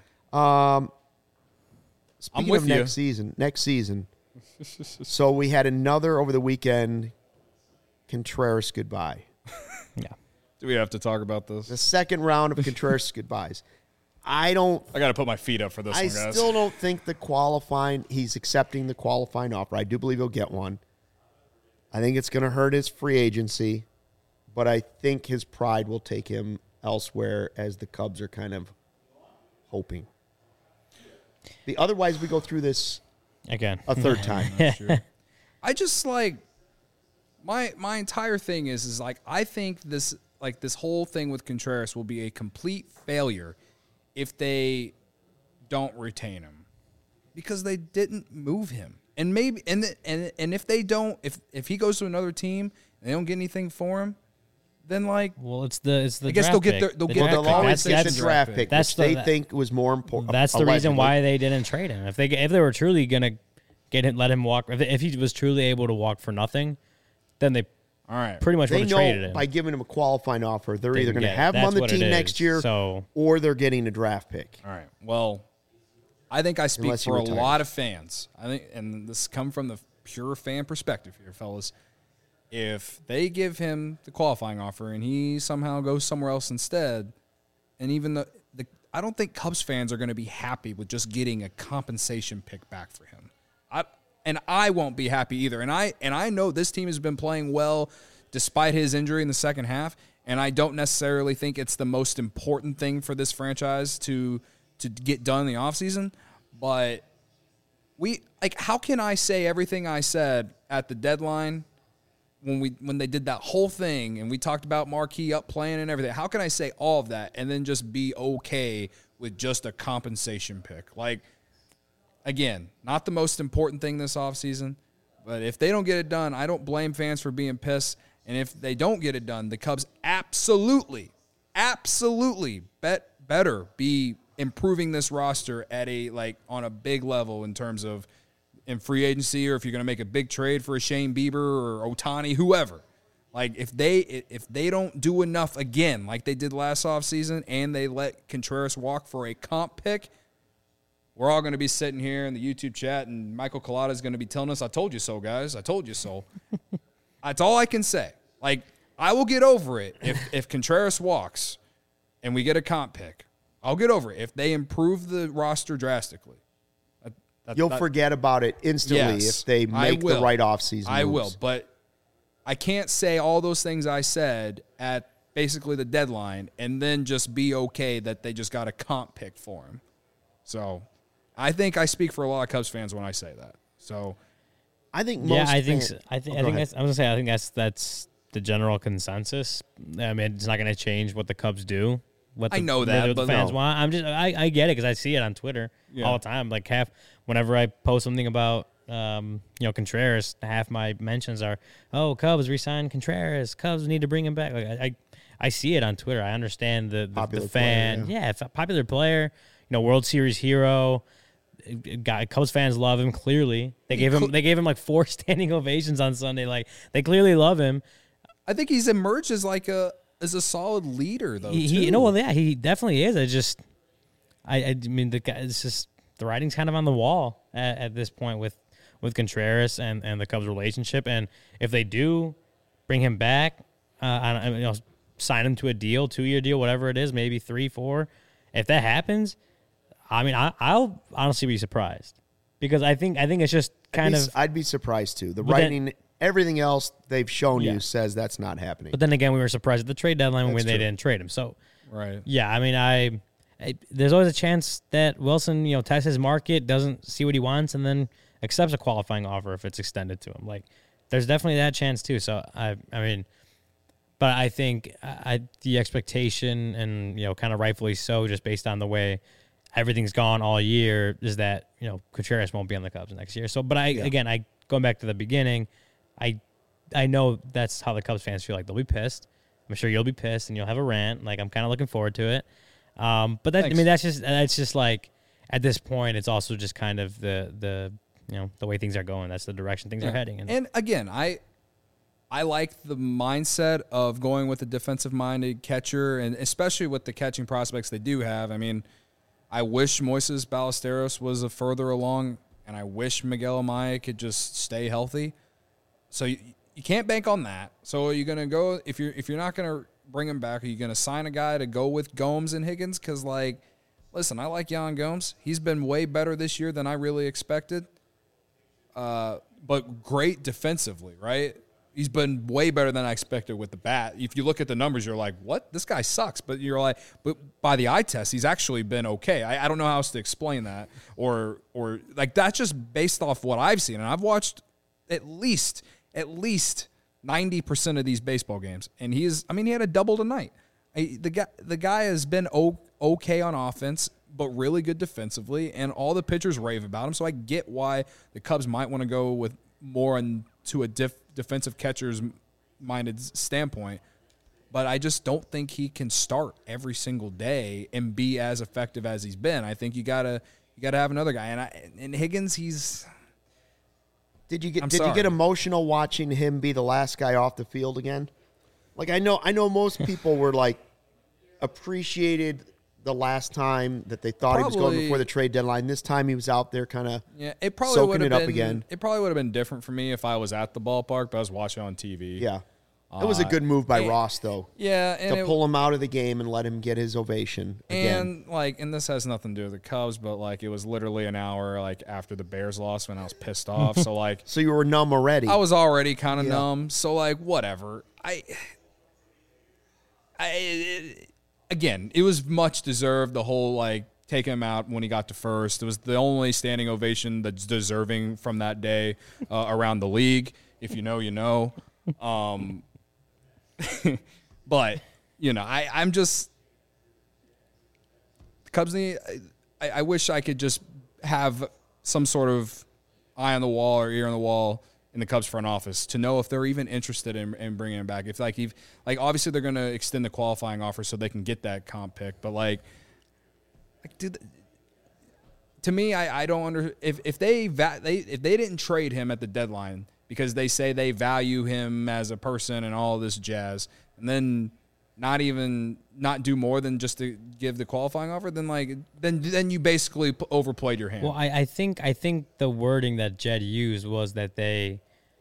Speaking with of you. next season, so we had another over the weekend, Contreras goodbye. Yeah. Do we have to talk about this? The second round of Contreras goodbyes. I got to put my feet up for this I one, guys. still don't think he's accepting the qualifying offer. I do believe he'll get one. I think it's going to hurt his free agency, but I think his pride will take him elsewhere as the Cubs are kind of hoping. Otherwise, we go through this Again. a third time. I just like my entire thing is like I think this whole thing with Contreras will be a complete failure if they don't retain him because they didn't move him. And maybe and if they don't if he goes to another team and they don't get anything for him, then like Well, it's the I guess draft they'll get pick. they'll The get draft They'll pick. always That's- take the that's- draft pick, that's which they the- think was more important. That's the reason why they didn't trade him. If they were truly gonna let him walk, if he was truly able to walk for nothing, then they all right. pretty much would They have traded know him. by giving him a qualifying offer, they're They either can going to get it. have him on That's the what it team is. next year So- or they're getting a draft pick. All right. Well, I think I speak Unless he for a retires. lot of fans. I think, and this come from the pure fan perspective here, fellas. If they give him the qualifying offer and he somehow goes somewhere else instead, and even the I don't think Cubs fans are going to be happy with just getting a compensation pick back for him. I won't be happy either. And I know this team has been playing well despite his injury in the second half. And I don't necessarily think it's the most important thing for this franchise to get done in the offseason. But how can I say everything I said at the deadline when they did that whole thing and we talked about Marquee up playing and everything? How can I say all of that and then just be okay with just a compensation pick? Like, again, not the most important thing this offseason, But if they don't get it done, I don't blame fans for being pissed. And if they don't get it done, the Cubs absolutely better be improving this roster at on a big level in terms of in free agency, or if you're going to make a big trade for a Shane Bieber or Ohtani, whoever. Like, if they don't do enough again, like they did last offseason, and they let Contreras walk for a comp pick, we're all going to be sitting here in the YouTube chat, and Michael Collada is going to be telling us, I told you so, guys. I told you so. That's all I can say. Like, I will get over it if Contreras walks and we get a comp pick. I'll get over it if they improve the roster drastically. You'll forget about it instantly if they make the right offseason I will, moves. but I can't say all those things I said at basically the deadline and then just be okay that they just got a comp pick for him. So I think I speak for a lot of Cubs fans when I say that. So I think most I fans, think I think that's the general consensus. I mean, it's not going to change what the Cubs do. I know that, what the but fans no. want. I get it because I see it on Twitter all the time. Like whenever I post something about Contreras, half my mentions are, "Oh, Cubs re-signed Contreras. Cubs need to bring him back." Like I see it on Twitter. I understand the fan. Player, yeah, popular player. World Series hero. Cubs fans love him. Clearly, they gave him like 4 standing ovations on Sunday. Like, they clearly love him. I think he's emerged as as a solid leader, though. He definitely is. I mean, the guy. It's just the writing's kind of on the wall at this point with Contreras and the Cubs relationship. And if they do bring him back, sign him to a deal, 2-year deal, whatever it is, maybe 3, 4. If that happens, I mean, I'll honestly be surprised because I think it's just I'd be surprised too. The writing, everything else they've shown you says that's not happening. But then again, we were surprised at the trade deadline when they true. didn't trade him. So, right. Yeah, I mean, there's always a chance that Wilson, tests his market, doesn't see what he wants, and then accepts a qualifying offer if it's extended to him. Like, there's definitely that chance too. So I mean, but I think the expectation, and kind of rightfully so, just based on the way everything's gone all year, is that Contreras won't be on the Cubs next year. So, but going back to the beginning, I know that's how the Cubs fans feel. Like, they'll be pissed. I'm sure you'll be pissed and you'll have a rant. Like, I'm kind of looking forward to it. But that's just like, at this point, it's also just kind of the way things are going. That's the direction things are heading. And again, I like the mindset of going with a defensive-minded catcher, and especially with the catching prospects they do have. I mean, I wish Moises Ballesteros was further along, and I wish Miguel Amaya could just stay healthy. So you can't bank on that. So are you going to go, if you're not going to bring him back, are you going to sign a guy to go with Gomes and Higgins? Because, listen, I like Yan Gomes. He's been way better this year than I really expected. But great defensively, right? He's been way better than I expected with the bat. If you look at the numbers, you're like, what? This guy sucks. But you're like, but by the eye test, he's actually been okay. I don't know how else to explain that. Or like, that's just based off what I've seen. And I've watched at least 90% of these baseball games. And he had a double tonight. The guy has been okay on offense, but really good defensively. And all the pitchers rave about him. So I get why the Cubs might want to go with more into a defensive catcher's minded standpoint, but I just don't think he can start every single day and be as effective as he's been. I think you gotta have another guy, and Higgins, Did you get emotional watching him be the last guy off the field again? Like, I know most people were like appreciated the last time that they thought he was going before the trade deadline. This time he was out there kind of soaking it up again. It probably would have been different for me if I was at the ballpark, but I was watching on TV. Yeah. It was a good move by Ross, though. Yeah. And to pull him out of the game and let him get his ovation again. And this has nothing to do with the Cubs, but, it was literally an hour, after the Bears lost when I was pissed off. So, So you were numb already. I was already kind of numb. So, whatever. Again, it was much deserved, the whole, taking him out when he got to first. It was the only standing ovation that's deserving from that day around the league. If you know, you know. But, I'm just – the Cubs need – I wish I could just have some sort of eye on the wall or ear on the wall in the Cubs front office to know if they're even interested in bringing him back. If obviously they're going to extend the qualifying offer so they can get that comp pick, but dude, to me, I don't if they didn't trade him at the deadline because they say they value him as a person and all this jazz, and then not do more than just to give the qualifying offer, then you basically overplayed your hand. Well, I think the wording that Jed used was that the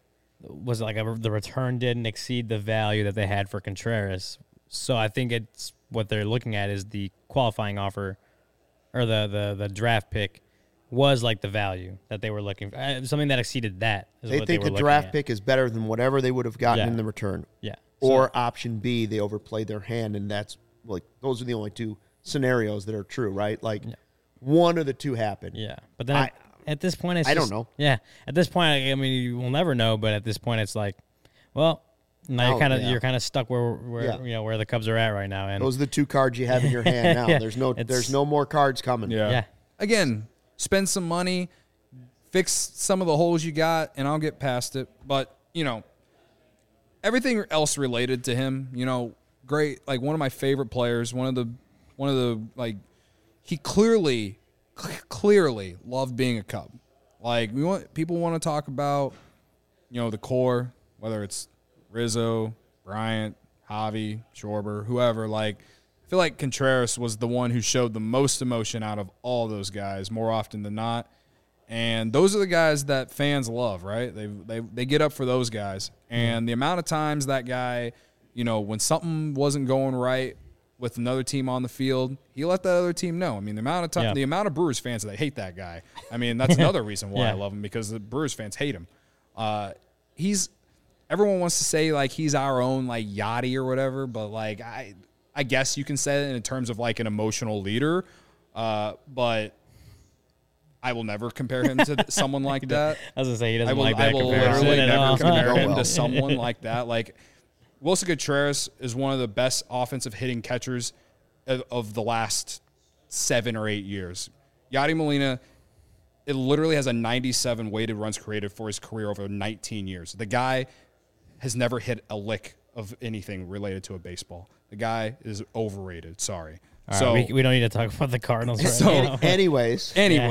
return didn't exceed the value that they had for Contreras. So I think it's what they're looking at is the qualifying offer or the draft pick was like the value that they were looking for. Something that exceeded that is They what think they were the looking draft at. pick is better than whatever they would have gotten Yeah. in the return. Yeah. Or option B, they overplayed their hand, and that's those are the only two scenarios that are true, right? One of the two happened. Yeah, but then at this point, it's I just, don't know. Yeah, at this point, I mean, you will never know. But at this point, it's like, well, now you're kind of stuck where where the Cubs are at right now. And Those are the two cards you have in your hand now. Yeah, There's no more cards coming. yeah. Again, spend some money, fix some of the holes you got, and I'll get past it. But everything else related to him, great. Like one of my favorite players, one of the he clearly loved being a Cub. People want to talk about, the core, whether it's Rizzo, Bryant, Javi, Schwarber, whoever. I feel like Contreras was the one who showed the most emotion out of all those guys more often than not. And those are the guys that fans love, right? They get up for those guys. And the amount of times that guy, when something wasn't going right with another team on the field, he let that other team know. I mean, the amount of time, the amount of Brewers fans that hate that guy. I mean, that's another reason why I love him, because the Brewers fans hate him. Everyone wants to say he's our own Yachty or whatever, but I guess you can say it in terms of an emotional leader, but I will never compare him to someone like that. I was gonna say he doesn't I will, like that I will comparison literally at never all. compare him to someone like that. Wilson Contreras is one of the best offensive hitting catchers of the last 7 or 8 years. Yadi Molina, it literally has a 97 weighted runs created for his career over 19 years. The guy has never hit a lick of anything related to a baseball. The guy is overrated. Sorry. All right, we don't need to talk about the Cardinals right now. Anyways.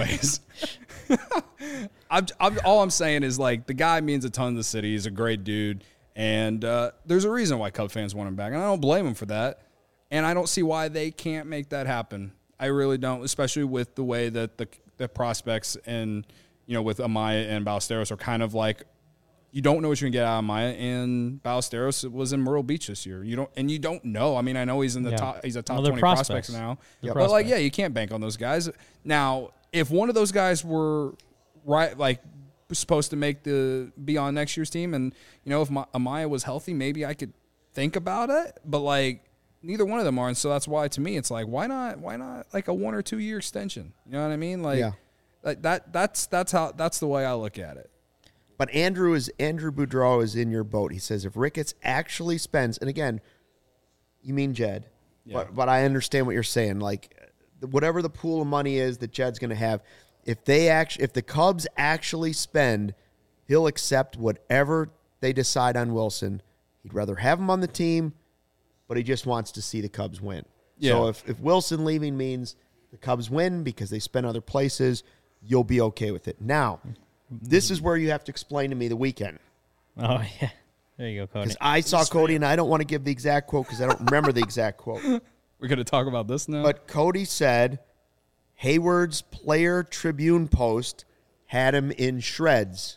All I'm saying is the guy means a ton to the city. He's a great dude, and there's a reason why Cub fans want him back, and I don't blame him for that. And I don't see why they can't make that happen. I really don't, especially with the way that the prospects and with Amaya and Ballesteros are kind of you don't know what you're gonna get out of Amaya, and Ballesteros was in Myrtle Beach this year. You don't know. I mean, I know he's in the top. He's a top 20 prospects now. Yep. But you can't bank on those guys. Now, if one of those guys were supposed to be on next year's team, and if Amaya was healthy, maybe I could think about it. But neither one of them are, and so that's why to me it's why not a 1 or 2 year extension? You know what I mean? That's the way I look at it. But Andrew Boudreau is in your boat. He says if Ricketts actually spends, and again, you mean Jed, but I understand what you're saying. Whatever the pool of money is that Jed's going to have, if the Cubs actually spend, he'll accept whatever they decide on Wilson. He'd rather have him on the team, but he just wants to see the Cubs win. Yeah. So if Wilson leaving means the Cubs win because they spend other places, you'll be okay with it. Now, this is where you have to explain to me the weekend. Oh, yeah. There you go, Cody. Because I saw Cody, and I don't want to give the exact quote because I don't remember the exact quote. We're going to talk about this now? But Cody said Hayward's Player Tribune post had him in shreds.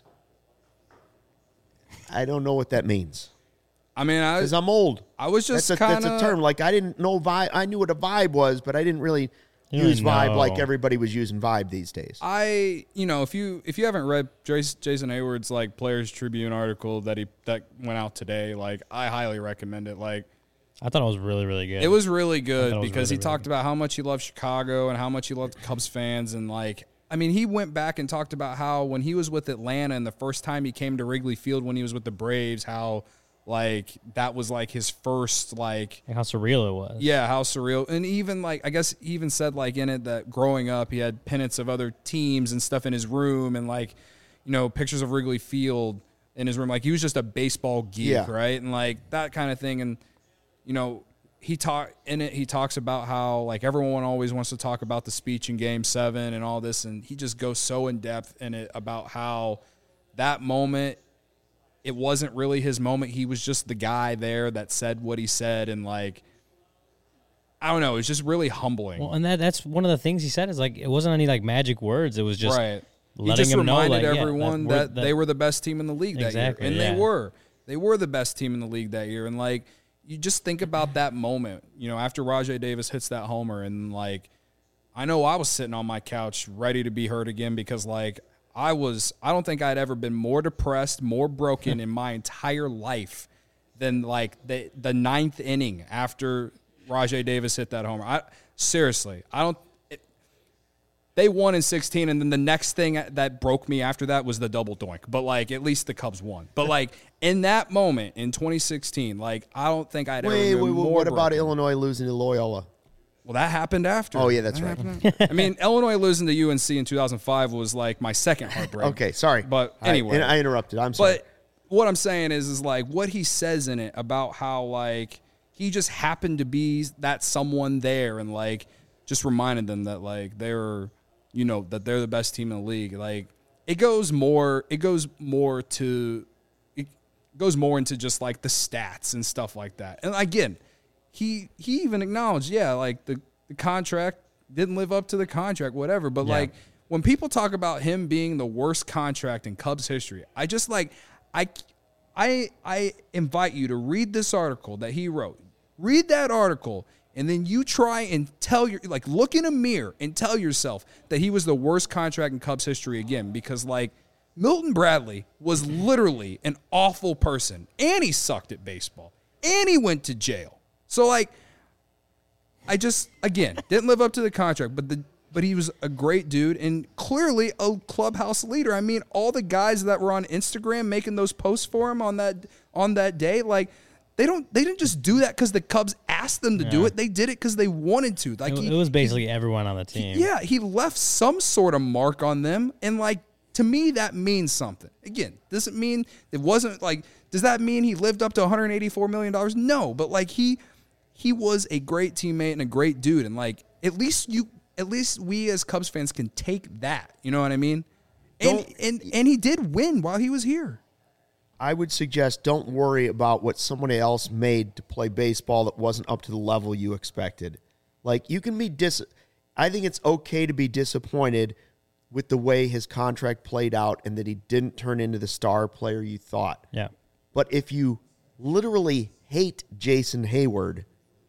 I don't know what that means. I mean, because I'm old. I was just that's a term. I didn't know vibe. I knew what a vibe was, but I didn't really use vibe like everybody was using vibe these days. If you haven't read Jason Hayward's Players Tribune article that went out today, I highly recommend it. I thought it was really, really good. It was really good because he talked good. about how much he loved Chicago and how much he loved Cubs fans, and he went back and talked about how when he was with Atlanta and the first time he came to Wrigley Field when he was with the Braves, how that was his first how surreal it was. Yeah, how surreal. And even I guess he even said in it that growing up he had pennants of other teams and stuff in his room and pictures of Wrigley Field in his room. Like, he was just a baseball geek, right? And, like, that kind of thing. And, you know, he talks about how, like, everyone always wants to talk about the speech in Game 7 and all this, and he just goes so in depth in it about how that moment, it wasn't really his moment. He was just the guy there that said what he said, and, like, I don't know, it's just really humbling. Well, and that's one of the things he said is, like, it wasn't any, like, magic words. It was just right. letting he just him reminded know, like, everyone that they were the best team in the league that year. And they were. They were the best team in the league that year. And, like, you just think about that moment, you know, after Rajai Davis hits that homer, and, like, I know I was sitting on my couch ready to be hurt again because, like, I don't think I'd ever been more depressed, more broken in my entire life than, like, the ninth inning after Rajai Davis hit that homer. They won in 16, and then the next thing that broke me after that was the double doink. But, like, at least the Cubs won. But, like, in that moment in 2016, like, I don't think I'd ever been more what about broken. Illinois losing to Loyola? Well, that happened after. Oh, yeah, that's right. I mean, Illinois losing to UNC in 2005 was, like, my second heartbreak. Okay, sorry. But anyway. I interrupted. I'm sorry. But what I'm saying is like, what he says in it about how, like, he just happened to be that someone there and, like, just reminded them that, like, they're the best team in the league. Like, it goes more into just, like, the stats and stuff like that. And again, he even acknowledged, like, the contract didn't live up to the contract, whatever. But like, when people talk about him being the worst contract in Cubs history, I just, like, I invite you to read this article that he wrote. Read that article, and then you try and look in a mirror and tell yourself that he was the worst contract in Cubs history again, because, like, Milton Bradley was literally an awful person, and he sucked at baseball, and he went to jail. So, like, I just, again, didn't live up to the contract, but he was a great dude and clearly a clubhouse leader. I mean, all the guys that were on Instagram making those posts for him on that day, like, they didn't just do that because the Cubs asked them to do it. They did it because they wanted to. Like, it was basically everyone on the team. He left some sort of mark on them, and, like, to me, that means something. Again, doesn't mean it wasn't, like, does that mean he lived up to $184 million? No, but, like, he was a great teammate and a great dude, and, like, at least we as Cubs fans can take that. You know what I mean? And he did win while he was here. I would suggest don't worry about what somebody else made to play baseball that wasn't up to the level you expected. Like, you can be I think it's okay to be disappointed with the way his contract played out and that he didn't turn into the star player you thought. Yeah. But if you literally hate Jason Hayward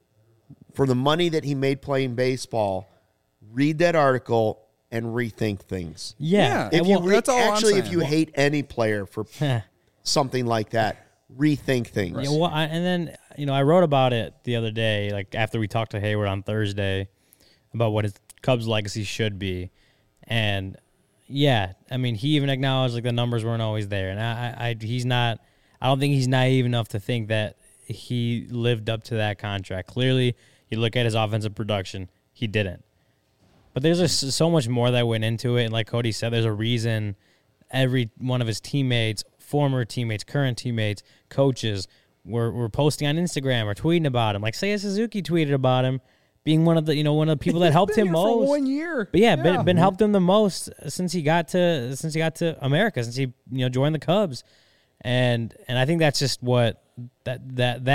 for the money that he made playing baseball, read that article and rethink things. Yeah. That's all I'm saying. If you hate any player for something like that, rethink things. Yeah, well, and then, I wrote about it the other day, like, after we talked to Hayward on Thursday about what his Cubs legacy should be. And yeah, I mean, he even acknowledged, like, the numbers weren't always there. And I don't think he's naive enough to think that he lived up to that contract. Clearly, you look at his offensive production, he didn't. But there's just so much more that went into it. And like Cody said, there's a reason every one of his teammates, former teammates, current teammates, coaches were posting on Instagram or tweeting about him. Like Seiya Suzuki tweeted about him being one of the people that helped him most. For 1 year. But been helped him the most since he got to America, since he joined the Cubs. And I think that's just what that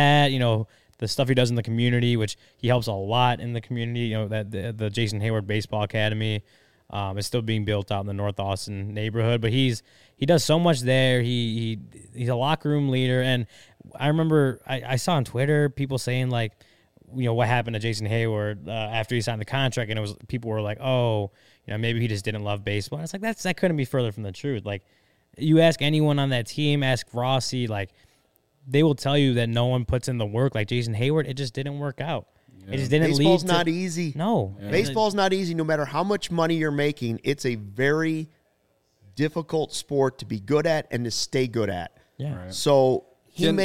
the stuff he does in the community, which he helps a lot in the community. That the Jason Hayward Baseball Academy is still being built out in the North Austin neighborhood, but he does so much there. He's a locker room leader, and I remember I saw on Twitter people saying, like, what happened to Jason Hayward after he signed the contract, and people were like, oh, maybe he just didn't love baseball. And it's like that couldn't be further from the truth. Like, you ask anyone on that team, ask Rossi, like, they will tell you that no one puts in the work like Jason Hayward. It just didn't work out. Yeah. It just didn't Baseball's lead to... not easy. No. Yeah. Baseball's not easy no matter how much money you're making. It's a very difficult sport to be good at and to stay good at. Yeah. Right. So let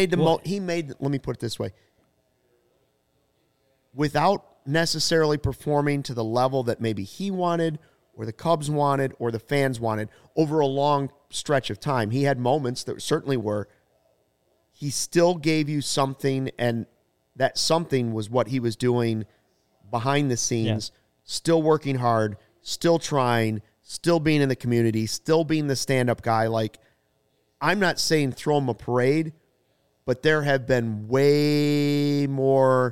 me put it this way. Without necessarily performing to the level that maybe he wanted or the Cubs wanted or the fans wanted over a long stretch of time. He had moments that certainly were. He still gave you something, and that something was what he was doing behind the scenes, still working hard, still trying, still being in the community, still being the stand-up guy. Like, I'm not saying throw him a parade, but there have been way more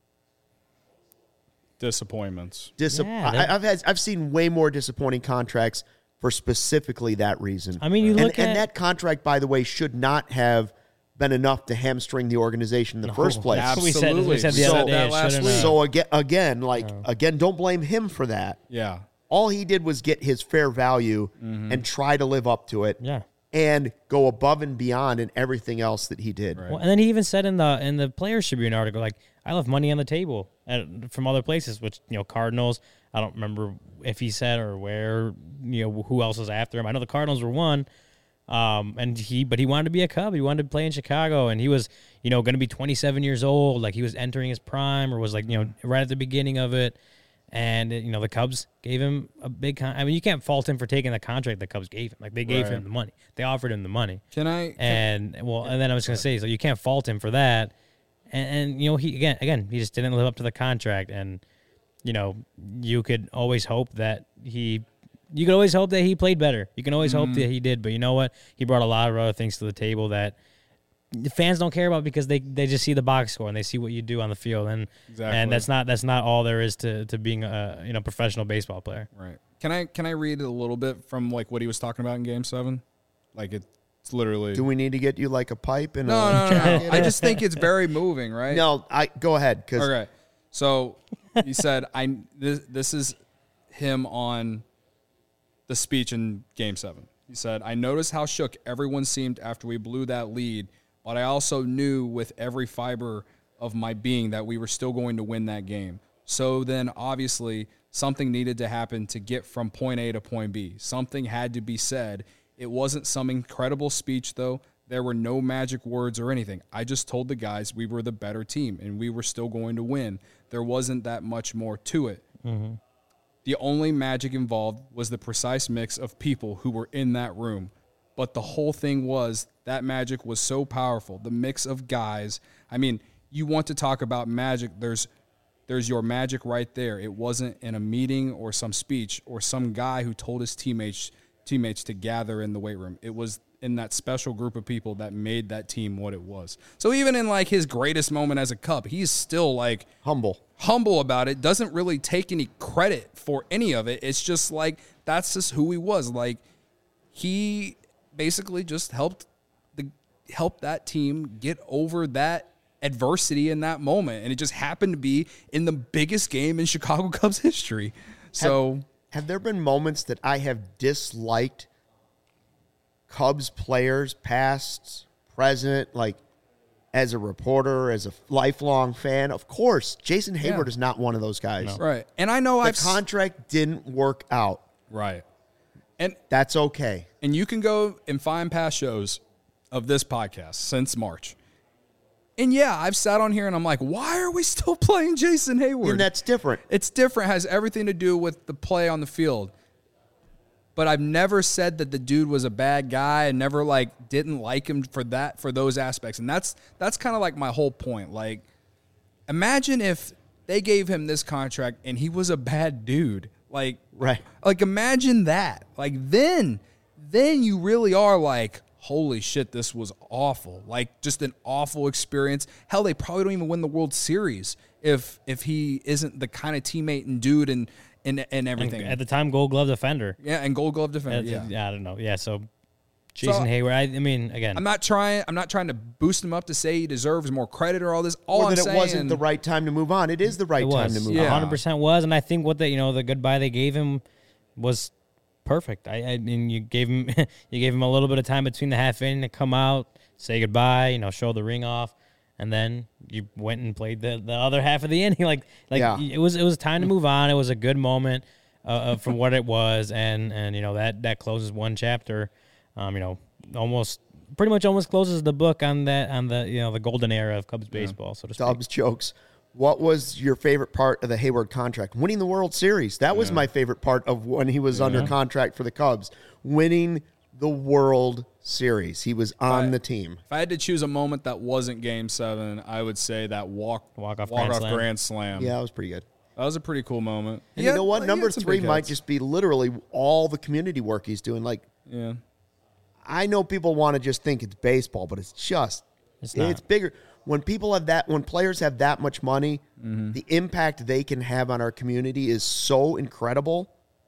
disappointments. I've seen way more disappointing contracts for specifically that reason. I mean, and that contract, by the way, should not have been enough to hamstring the organization in the first place. Absolutely. We said the other day. So again, don't blame him for that. Yeah. All he did was get his fair value and try to live up to it. Yeah. And go above and beyond in everything else that he did. Right. Well, and then he even said in the Players Tribune article, like, I left money on the table from other places, which, Cardinals, I don't remember if he said or where, who else was after him. I know the Cardinals were one, but he wanted to be a Cub. He wanted to play in Chicago, and he was, going to be 27 years old. Like, he was entering his prime, or was like, right at the beginning of it. And, the Cubs gave him a big you can't fault him for taking the contract the Cubs gave him. Like, they gave him the money. They offered him the money. And then I was going to say, so you can't fault him for that. And he, again, he just didn't live up to the contract. And, you could always hope that he played better. You can always hope that he did. But you know what? He brought a lot of other things to the table that the fans don't care about, because they just see the box score and they see what you do on the field, and that's not all there is to being a professional baseball player. Right. Can I read a little bit from like what he was talking about in Game 7? Like, it's literally. Do we need to get you like a pipe and no. I just think it's very moving, right? No, go ahead. Okay. So he said, this is him on the speech in Game 7. He said, "I noticed how shook everyone seemed after we blew that lead. But I also knew with every fiber of my being that we were still going to win that game. So then, obviously, something needed to happen to get from point A to point B. Something had to be said. It wasn't some incredible speech, though. There were no magic words or anything. I just told the guys we were the better team, and we were still going to win. There wasn't that much more to it. Mm-hmm. The only magic involved was the precise mix of people who were in that room. But the whole thing was that magic was so powerful. The mix of guys. I mean, you want to talk about magic. There's your magic right there. It wasn't in a meeting or some speech or some guy who told his teammates to gather in the weight room. It was in that special group of people that made that team what it was. So even in like his greatest moment as a Cub, he's still like humble about it. Doesn't really take any credit for any of it. It's just like, that's just who he was. Like, he basically just helped that team get over that adversity in that moment, and it just happened to be in the biggest game in Chicago Cubs history. So, have there been moments that I have disliked Cubs players, past, present, like as a reporter, as a lifelong fan? Of course, Jason Hayward is not one of those guys, no. Right? And I know the contract didn't work out, right? And that's okay. And you can go and find past shows of this podcast since March. And yeah, I've sat on here and I'm like, why are we still playing Jason Hayward? And that's different. It's different. It has everything to do with the play on the field. But I've never said that the dude was a bad guy. I never didn't like him for those aspects. And that's kind of like my whole point. Like, imagine if they gave him this contract and he was a bad dude. Like, right. Like, imagine that. Like, then you really are like, holy shit, this was awful. Like, just an awful experience. Hell, they probably don't even win the World Series if he isn't the kind of teammate and dude and everything. And at the time, Gold Glove defender. Yeah, and Gold Glove defender. Yeah, I don't know. Yeah, so Jason Hayward. I mean, again, I'm not trying to boost him up to say he deserves more credit or all this. All or that it wasn't the right time to move on. It is the right time to move on. 100% was, and I think what the goodbye they gave him was perfect. I mean, you gave him a little bit of time between the half inning to come out, say goodbye, show the ring off, and then you went and played the other half of the inning. It was time to move on. It was a good moment from what it was, and that closes one chapter. Almost closes the book on the golden era of Cubs baseball, so to speak. Dubs jokes. what was your favorite part of the Hayward contract? Winning the World Series. That was my favorite part of when he was under contract for the Cubs. Winning the World Series. He was on the team. If I had to choose a moment that wasn't Game 7, I would say that walk-off grand slam. Yeah, that was pretty good. That was a pretty cool moment. And you know what? Number 3 might just be literally all the community work he's doing. Like, Yeah. I know people want to just think it's baseball, but it's bigger. When players have that much money, the impact they can have on our community is so incredible.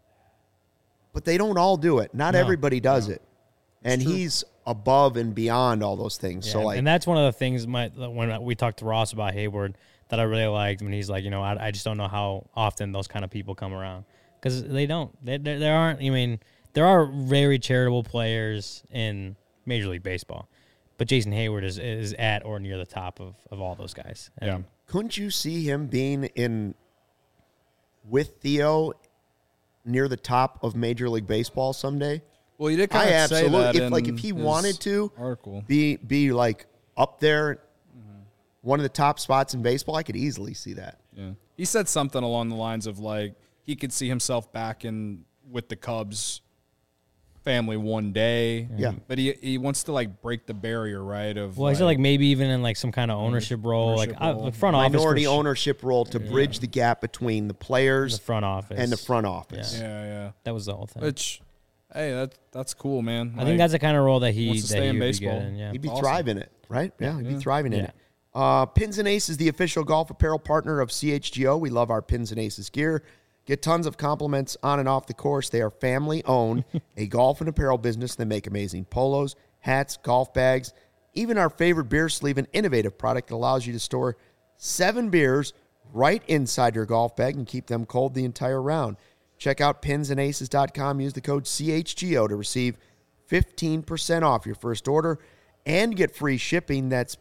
But they don't all do it. Not everybody does it. And he's above and beyond all those things. Yeah, So like, and that's one of the things when we talked to Ross about Hayward that I really liked when he's like, I just don't know how often those kind of people come around because they don't. There aren't. I mean, there are very charitable players in Major League Baseball, but Jason Hayward is at or near the top of all those guys. And couldn't you see him being with Theo near the top of Major League Baseball someday? Well, you did kind of say that if he wanted to article. be like up there, one of the top spots in baseball, I could easily see that. Yeah, he said something along the lines of like he could see himself back with the Cubs family one day. Yeah, but he wants to like break the barrier, right? He said like maybe even in like some kind of ownership role, like front office, minority ownership role to bridge the gap between the players, the front office, and the front office. Yeah. That was the whole thing. Which, hey, that's cool, man. I think that's the kind of role that he wants to stay in baseball. Be good in, He'd be Awesome. thriving it, right? Yeah, he'd be thriving in Yeah. it. Pins and Aces, the official golf apparel partner of CHGO. We love our Pins and Aces gear. Get tons of compliments on and off the course. They are family-owned, a golf and apparel business. They make amazing polos, hats, golf bags, even our favorite beer sleeve, an innovative product that allows you to store 7 beers right inside your golf bag and keep them cold the entire round. Check out pinsandaces.com. Use the code CHGO to receive 15% off your first order and get free shipping. That's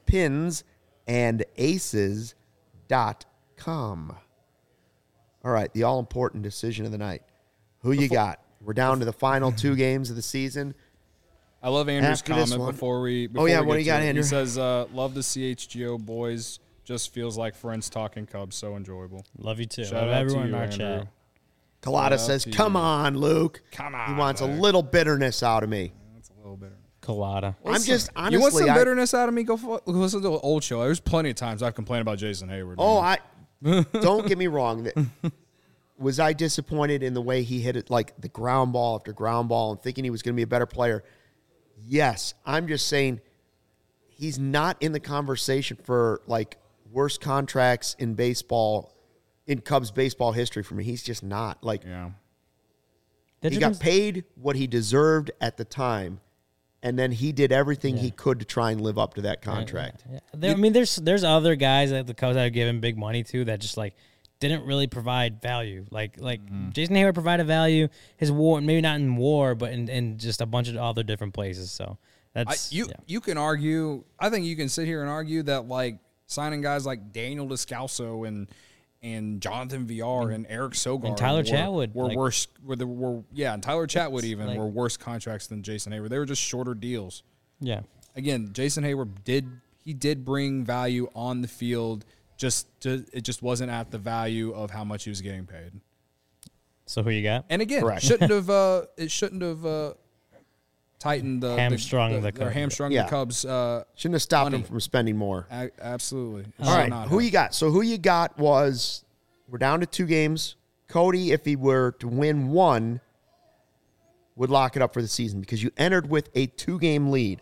pinsandaces.com. All right, the all-important decision of the night. Who you got? We're down to the final 2 games of the season. I love Andrew's After this comment one- before we. what do you got, it. Andrew? He says, "Love the CHGO boys. Just feels like friends talking Cubs. So enjoyable." Love you too. Shout Love out everyone to in you, our Andrew. chat. Colada says, come on, Luke. Come He on, wants a Luke. little bitterness out of me. That's a little bitter. Colada. I'm just, honestly, You want some bitterness out of me? Go listen to the old show. There's plenty of times I've complained about Jason Hayward. man. Don't get me wrong. Was I disappointed in the way he hit it, like the ground ball after ground ball, and thinking he was going to be a better player? Yes. I'm just saying he's not in the conversation for like worst contracts in baseball, in Cubs baseball history for me. He's just not. Like, yeah. he got paid what he deserved at the time, and then he did everything he could to try and live up to that contract. I mean, there's other guys that the Cubs have given big money to that just like didn't really provide value. Like Jason Hayward provided value. His WAR, maybe not in WAR, but in just a bunch of other different places. So that's You can argue. I think you can sit here and argue that like signing guys like Daniel Descalso and Jonathan Villar and Eric Sogard And Tyler Chatwood, were like- worse. And Tyler Chatwood even like- were worse contracts than Jason Hayward. They were just shorter deals. yeah. Again, Jason Hayward did bring value on the field. It just wasn't at the value of how much he was getting paid. So who you got? And again, Correct. it shouldn't have tightened the Hamstrung the or Cubs. hamstrung Yeah. the Cubs. Shouldn't have stopped Money. him from spending more. Absolutely. All right, who you got? So who you got was, we're down to 2 games. Cody, if he were to win 1, would lock it up for the season because you entered with a 2-game lead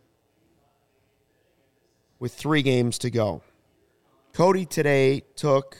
with 3 games to go. Cody today took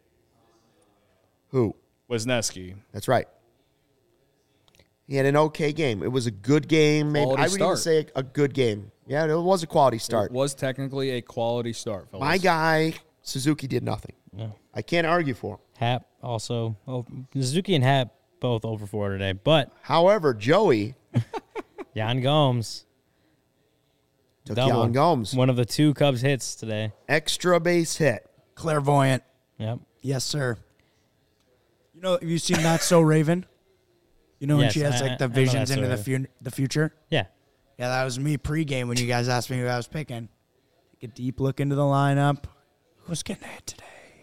who? Wisniewski. That's right. He had an okay game. It was a good game. Maybe Quality I would even start. say a good game. Yeah, it was a quality start. It was technically a quality start, fellas. My guy, Suzuki, did nothing. No. I can't argue for him. Hap also. Oh, Suzuki and Hap both over 4 today. But However, Joey Yan Gomes, took double. Yan Gomes. One of the 2 Cubs hits today. Extra base hit. Clairvoyant. Yep. Yes, sir. You know, have you seen Not So Raven? You know when Yes, she has I like the know visions That's into So the future? Yeah. Yeah, that was me pregame when you guys asked me who I was picking. Take a deep look into the lineup. Who's getting hit today?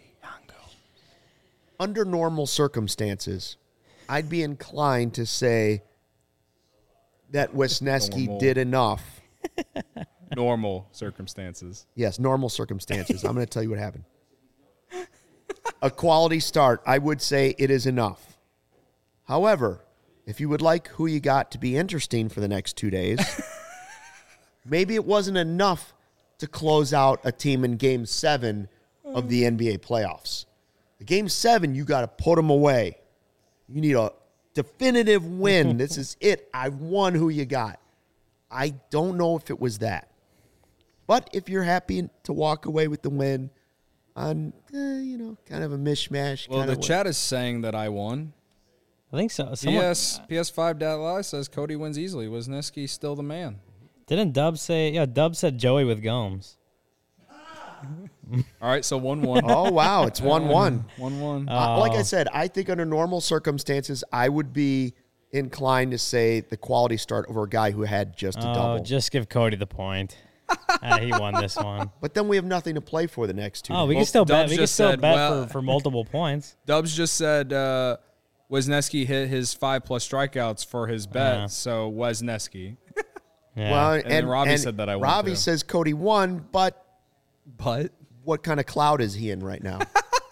under normal circumstances, I'd be inclined to say that Wisniewski Normal. did enough. Normal circumstances. Yes, normal circumstances. I'm going to tell you what happened. A quality start, I would say it is enough. However, if you would like who you got to be interesting for the next 2 days, maybe it wasn't enough to close out a team in Game 7 of the NBA playoffs. The Game 7, you got to put them away. You need a definitive win. This is it. I've won who you got. I don't know if it was that. But if you're happy to walk away with the win on, kind of a mishmash. Well, kind the of chat is saying that I won. I think so. PS5.live says Cody wins easily. Wisniewski still the man. Didn't Dub say? Yeah, Dub said Joey with Gomes. All right, so 1-1. Oh, wow. It's 1-1. 1-1. Like I said, I think under normal circumstances, I would be inclined to say the quality start over a guy who had just a double. Just give Cody the point. He won this one. But then we have nothing to play for the next 2 Oh, we days. can still bet. Dubs We can just still said, bet well- for multiple points. Dubs just said Wisniewski hit his 5+ strikeouts for his bet, Yeah. so Wisniewski. Yeah. Well, And then Robbie said that I won, Robbie too. says Cody won, but But what kind of cloud is he in right now?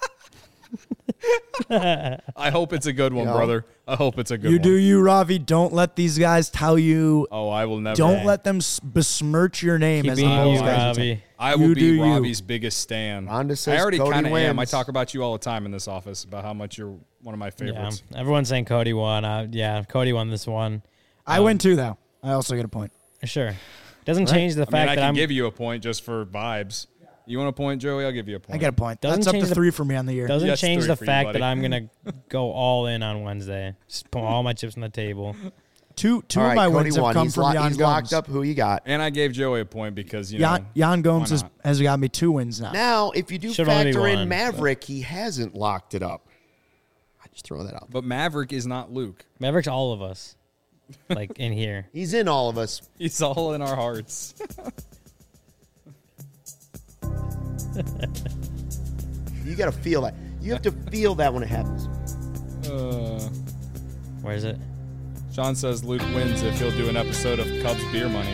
I hope it's a good one, You know? brother. I hope it's a good You one. do you, Ravi. Don't let these guys tell you. Oh, I will never. Don't let them besmirch your name Keep as being the you, most guys would say. Robbie. I will You be do you. Robbie's biggest stan. Rhonda says I already Cody kind of am. I wins. talk about you all the time in this office about how much you're one of my Yeah. favorites. Everyone's saying Cody won. Cody won this one. I win too, though. I also get a point. Sure. Doesn't change the I fact mean, I that can I'm. give you a point just for vibes. You want a point, Joey? I'll give you a point. I get a point. Doesn't That's up change to the- 3 for me on the year. Doesn't Yes, change 3 the for you, fact buddy. that I'm gonna go all in on Wednesday. Just put all my chips on the table. Two All of right, my Cody wins have won. come He's, from Jan he's locked Gomes. up who you got. And I gave Joey a point because, you know. Jan Gomes why not? has got me 2 wins now. Now, if you do Should only be factor in one, Maverick, he hasn't locked it up. I just throw that out. But Maverick is not Luke. Maverick's all of us, like in here. He's in all of us. He's all in our hearts. You got to feel that. You have to feel that when it happens. Where is it? Sean says Luke wins if he'll do an episode of Cubs Beer Money.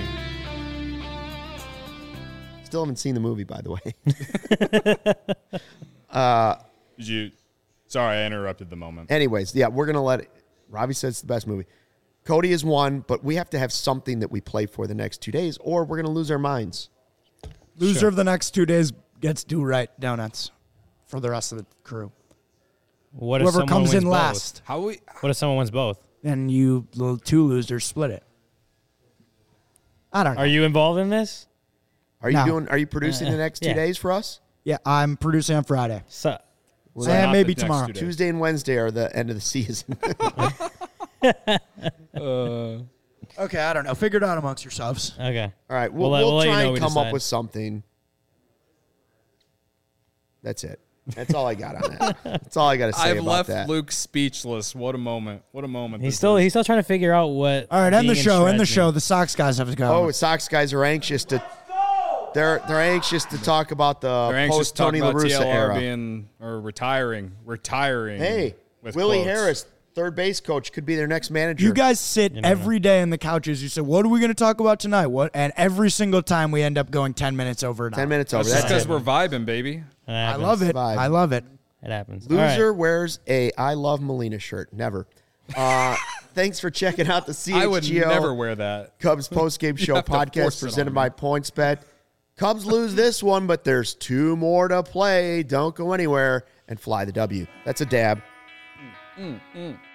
Still haven't seen the movie, by the way. Did you? Sorry, I interrupted the moment. Anyways, yeah, we're going to let it. Robbie says it's the best movie. Cody has won, but we have to have something that we play for the next 2 days, or we're going to lose our minds. Loser of the next 2 days gets do right donuts for the rest of the crew. What if Whoever someone comes wins in both? last, How we? What if someone wins both? then you the 2 losers split it. I don't know. Are you involved in this? Are you No. doing? Are you producing the next 2 Yeah. days for us? Yeah, I'm producing on Friday. So, So And not maybe the next tomorrow. 2 days. Tuesday and Wednesday are the end of the season. Okay, I don't know. Figure it out amongst yourselves. okay. All right, we'll We'll let you try know and we come up decide. with something. That's it. That's all I got on that. That's all I got to say I've about left that. Luke speechless. What a moment. What a moment. He's this still is. trying to figure out what. All right, end the being in show. End the shreds show. means. The Sox guys have to go. Oh, Sox guys are anxious to. They're anxious to talk about the They're anxious post to talk Tony about La Russa TLR era. being or retiring. Hey, with Willie quotes. Harris, third base coach, could be their next manager. You guys sit never every day in the couches. You say, "What are we going to talk about tonight?" What? And every single time we end up going 10 minutes over. 10 minutes over. That's just That's because it. we're vibing, baby. It I happens. love it. Vibe. I love it. It happens. All right. Loser wears a I Love Molina shirt. Never. Thanks for checking out the CHGO I would never wear that. Cubs postgame show have to force podcast it presented on by me. PointsBet. Cubs lose this one, but there's 2 more to play. Don't go anywhere and fly the W. That's a dab.